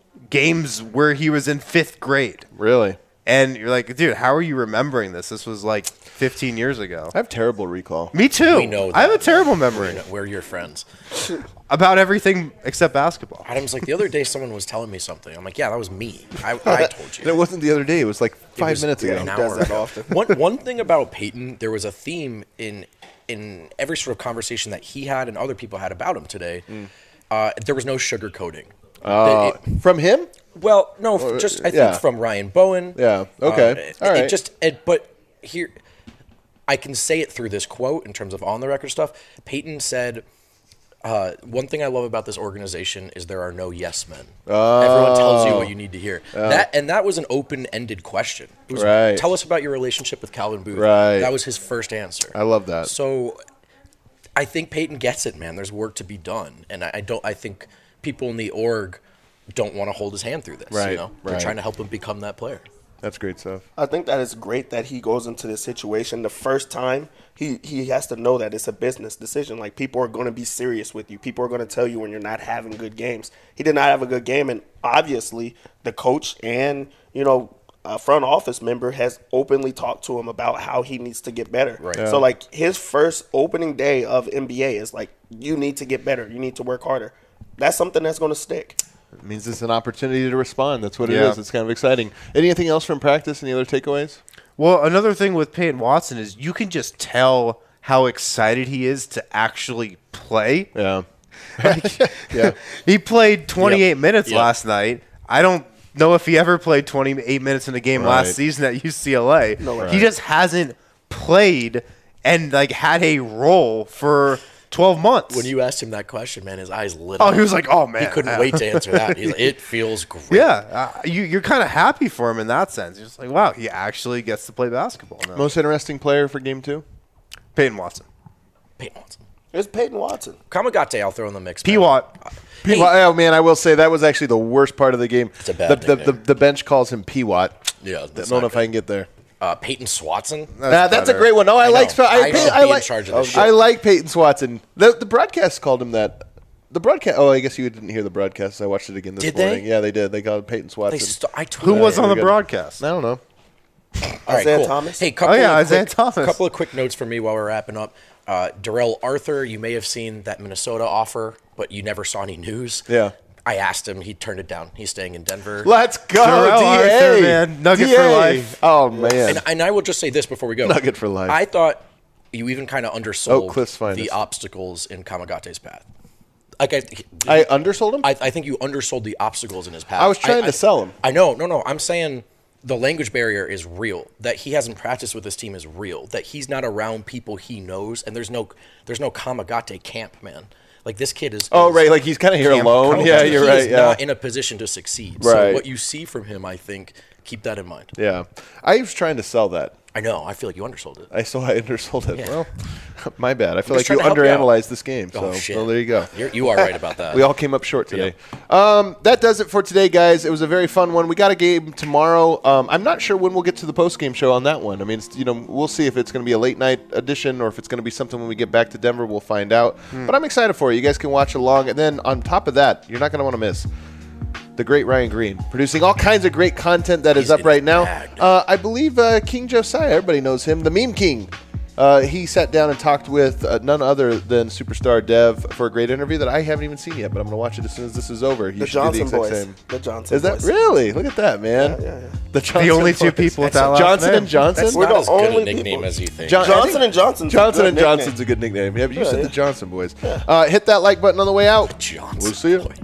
B: games where he was in fifth grade.
A: Really?
B: And you're like, dude, how are you remembering this? This was like fifteen years ago.
A: I have terrible recall.
B: Me too.
F: We know
B: I have a
F: that.
B: terrible memory
F: We're your friends.
B: about everything except basketball.
F: Adam's like, the other day someone was telling me something. I'm like, yeah, that was me. I, I told
A: And
F: you.
A: it wasn't the other day. It was like
F: It
A: five
F: was
A: minutes ago.
F: An
E: does
F: hour
E: that
F: ago.
E: often.
F: One one thing about Peyton, there was a theme in in every sort of conversation that he had and other people had about him today. Uh, there was no sugarcoating.
A: Uh,
F: It-
A: from him?
F: well, no, f- just I think
A: yeah.
F: from Ryan Bowen.
A: Yeah, okay.
F: Uh, it,
A: All right.
F: It just, it, but here, I can say it through this quote in terms of on the record stuff. Peyton said, uh, "One thing I love about this organization is there are no yes men. Everyone tells you what you need to hear." That and that was an open-ended question. It was,
A: Right.
F: Tell us about your relationship with Calvin Booth.
A: Right.
F: That was his first answer.
A: I love that.
F: So, I think Peyton gets it, man. There's work to be done, and I, I don't. I think people in the org don't want to hold his hand through this.
A: Right,
F: You know, they're
A: right.
F: trying to help him become that player.
A: That's great stuff.
E: I think that it's great that he goes into this situation the first time. He he has to know that it's a business decision. Like, people are going to be serious with you. People are going to tell you when you're not having good games. He did not have a good game, and obviously the coach and, you know, a front office member has openly talked to him about how he needs to get better.
F: Right.
E: So, like, his first opening day of N B A is like, you need to get better. You need to work harder. That's something that's going to stick.
A: It means it's an opportunity to respond. That's what it
B: Yeah.
A: is. It's kind of exciting. Anything else from practice? Any other takeaways?
B: Well, another thing with Peyton Watson is you can just tell how excited he is to actually play.
A: Yeah.
B: Yeah. He played twenty-eight
F: Yep.
B: minutes
F: Yep.
B: last night. I don't know if he ever played twenty-eight minutes in a game
A: Right.
B: last season at U C L A.
E: No way.
B: He just hasn't played and like had a role for twelve months.
F: When you asked him that question, man, his eyes lit
B: Oh,
F: up.
B: he was like, "Oh man."
F: He couldn't wait to answer that. He's like, it feels great.
B: Yeah, uh, you, you're kind of happy for him in that sense. You're just like, wow, he actually gets to play basketball now.
A: Most interesting player for game two?
B: Peyton Watson.
F: Peyton Watson.
E: It's Peyton Watson.
F: Kamagate, I'll throw in the mix. man.
B: P-Watt.
A: P- oh, man, I will say that was actually the worst part of the game.
F: It's a bad
A: the, the, the,
F: nickname.
A: the bench calls him P-Watt.
F: Yeah,
A: I
F: that's
A: don't know
F: not
A: if I
F: good.
A: can get there.
F: Uh, Peyton Swatson.
A: That's, that's a
B: better.
A: great one. No, I,
F: I
A: like
F: know.
A: I,
F: I
A: Pey-
F: should
A: I
F: be in
A: like
F: charge of this
A: I
F: shit.
A: like Peyton Swatson. The the broadcast called him that. The broadcast. Oh, I guess you didn't hear the broadcast. I watched it again this
F: Did they?
A: morning. Yeah, they did. They called him Peyton Swatson.
F: They st- I tweeted
B: Who was
F: it.
B: on the
A: good.
B: broadcast?
A: I don't know.
F: All right,
E: Isaiah
F: cool.
E: Thomas?
F: Hey, couple
B: Oh, yeah,
F: of
B: Isaiah
F: quick,
B: Thomas.
F: couple of quick notes for me while we're wrapping up. Uh, Darrell Arthur, you may have seen that Minnesota offer, but you never saw any news.
A: Yeah.
F: I asked him. He turned it down. He's staying in Denver.
A: Let's go,
B: Terrell
A: D A.
B: Arthur, man. Nugget
A: D A.
B: for life.
A: Oh, man.
F: And, and I will just say this before we go.
A: Nugget for life.
F: I thought you even kind of undersold
A: Oh, Cliff's finest.
F: the obstacles in Kamagate's path. Like I,
A: I undersold him?
F: I, I think you undersold the obstacles in his path.
A: I was trying to
F: I,
A: sell him.
F: I know, no, no. I'm saying the language barrier is real. That he hasn't practiced with this team is real. That he's not around people he knows, and there's no, there's no Kamagate camp, man. Like this kid is.
A: Oh,
F: is,
A: right. Like he's kind of here
B: Camp-
A: alone.
B: Camp-
A: Yeah,
F: he
A: you're
F: is
A: right. Yeah.
F: not in a position to succeed. So
A: Right.
F: what you see from him, I think, keep that in mind.
A: Yeah. I was trying to sell that.
F: I know. I feel like you undersold it.
A: I saw I undersold it.
F: Yeah.
A: Well, my bad. I feel
F: just
A: like you
F: trying to help you out.
A: underanalyzed this game. So,
F: Oh, shit.
A: well, there you go.
F: You're, you are right about that.
A: We all came up short today. Um, that does it for today, guys. It was a very fun one. We got a game tomorrow. Um, I'm not sure when we'll get to the post game show on that one. I mean, it's, you know, we'll see if it's going to be a late night edition or if it's going to be something when we get back to Denver. We'll find out.
F: Hmm.
A: But I'm excited for you. You guys can watch along, and then on top of that, you're not going to want to miss the great Ryan Green, producing all kinds of great content that is
F: He's
A: up
F: in
A: right
F: the
A: now.
F: bag.
A: Uh, I believe uh, King Josiah, everybody knows him, the Meme King. Uh, he sat down and talked with uh, none other than Superstar Dev for a great interview that I haven't even seen yet, but I'm going to watch it as soon as this is over. You
E: The
A: should do
E: Johnson
A: the exact
E: boys.
A: same.
E: The Johnson
A: Is that
E: boys.
A: really? Look at that, man.
E: Yeah, yeah, yeah.
A: The, Johnson
B: The only two
A: boys.
B: people with that last
A: Johnson
B: name.
A: and Johnson.
F: That's
E: We're
F: not
E: the
F: as good a
E: only
F: nickname
E: people.
F: as you think.
A: John-
E: Johnson and Johnson's a
A: Johnson
E: good
A: and
E: nickname.
A: Johnson's a good nickname. Yeah, but you
E: Yeah,
A: said
E: yeah.
A: the Johnson boys. Uh, hit that like button on the way out.
F: Johnson
A: We'll see you.
F: boys.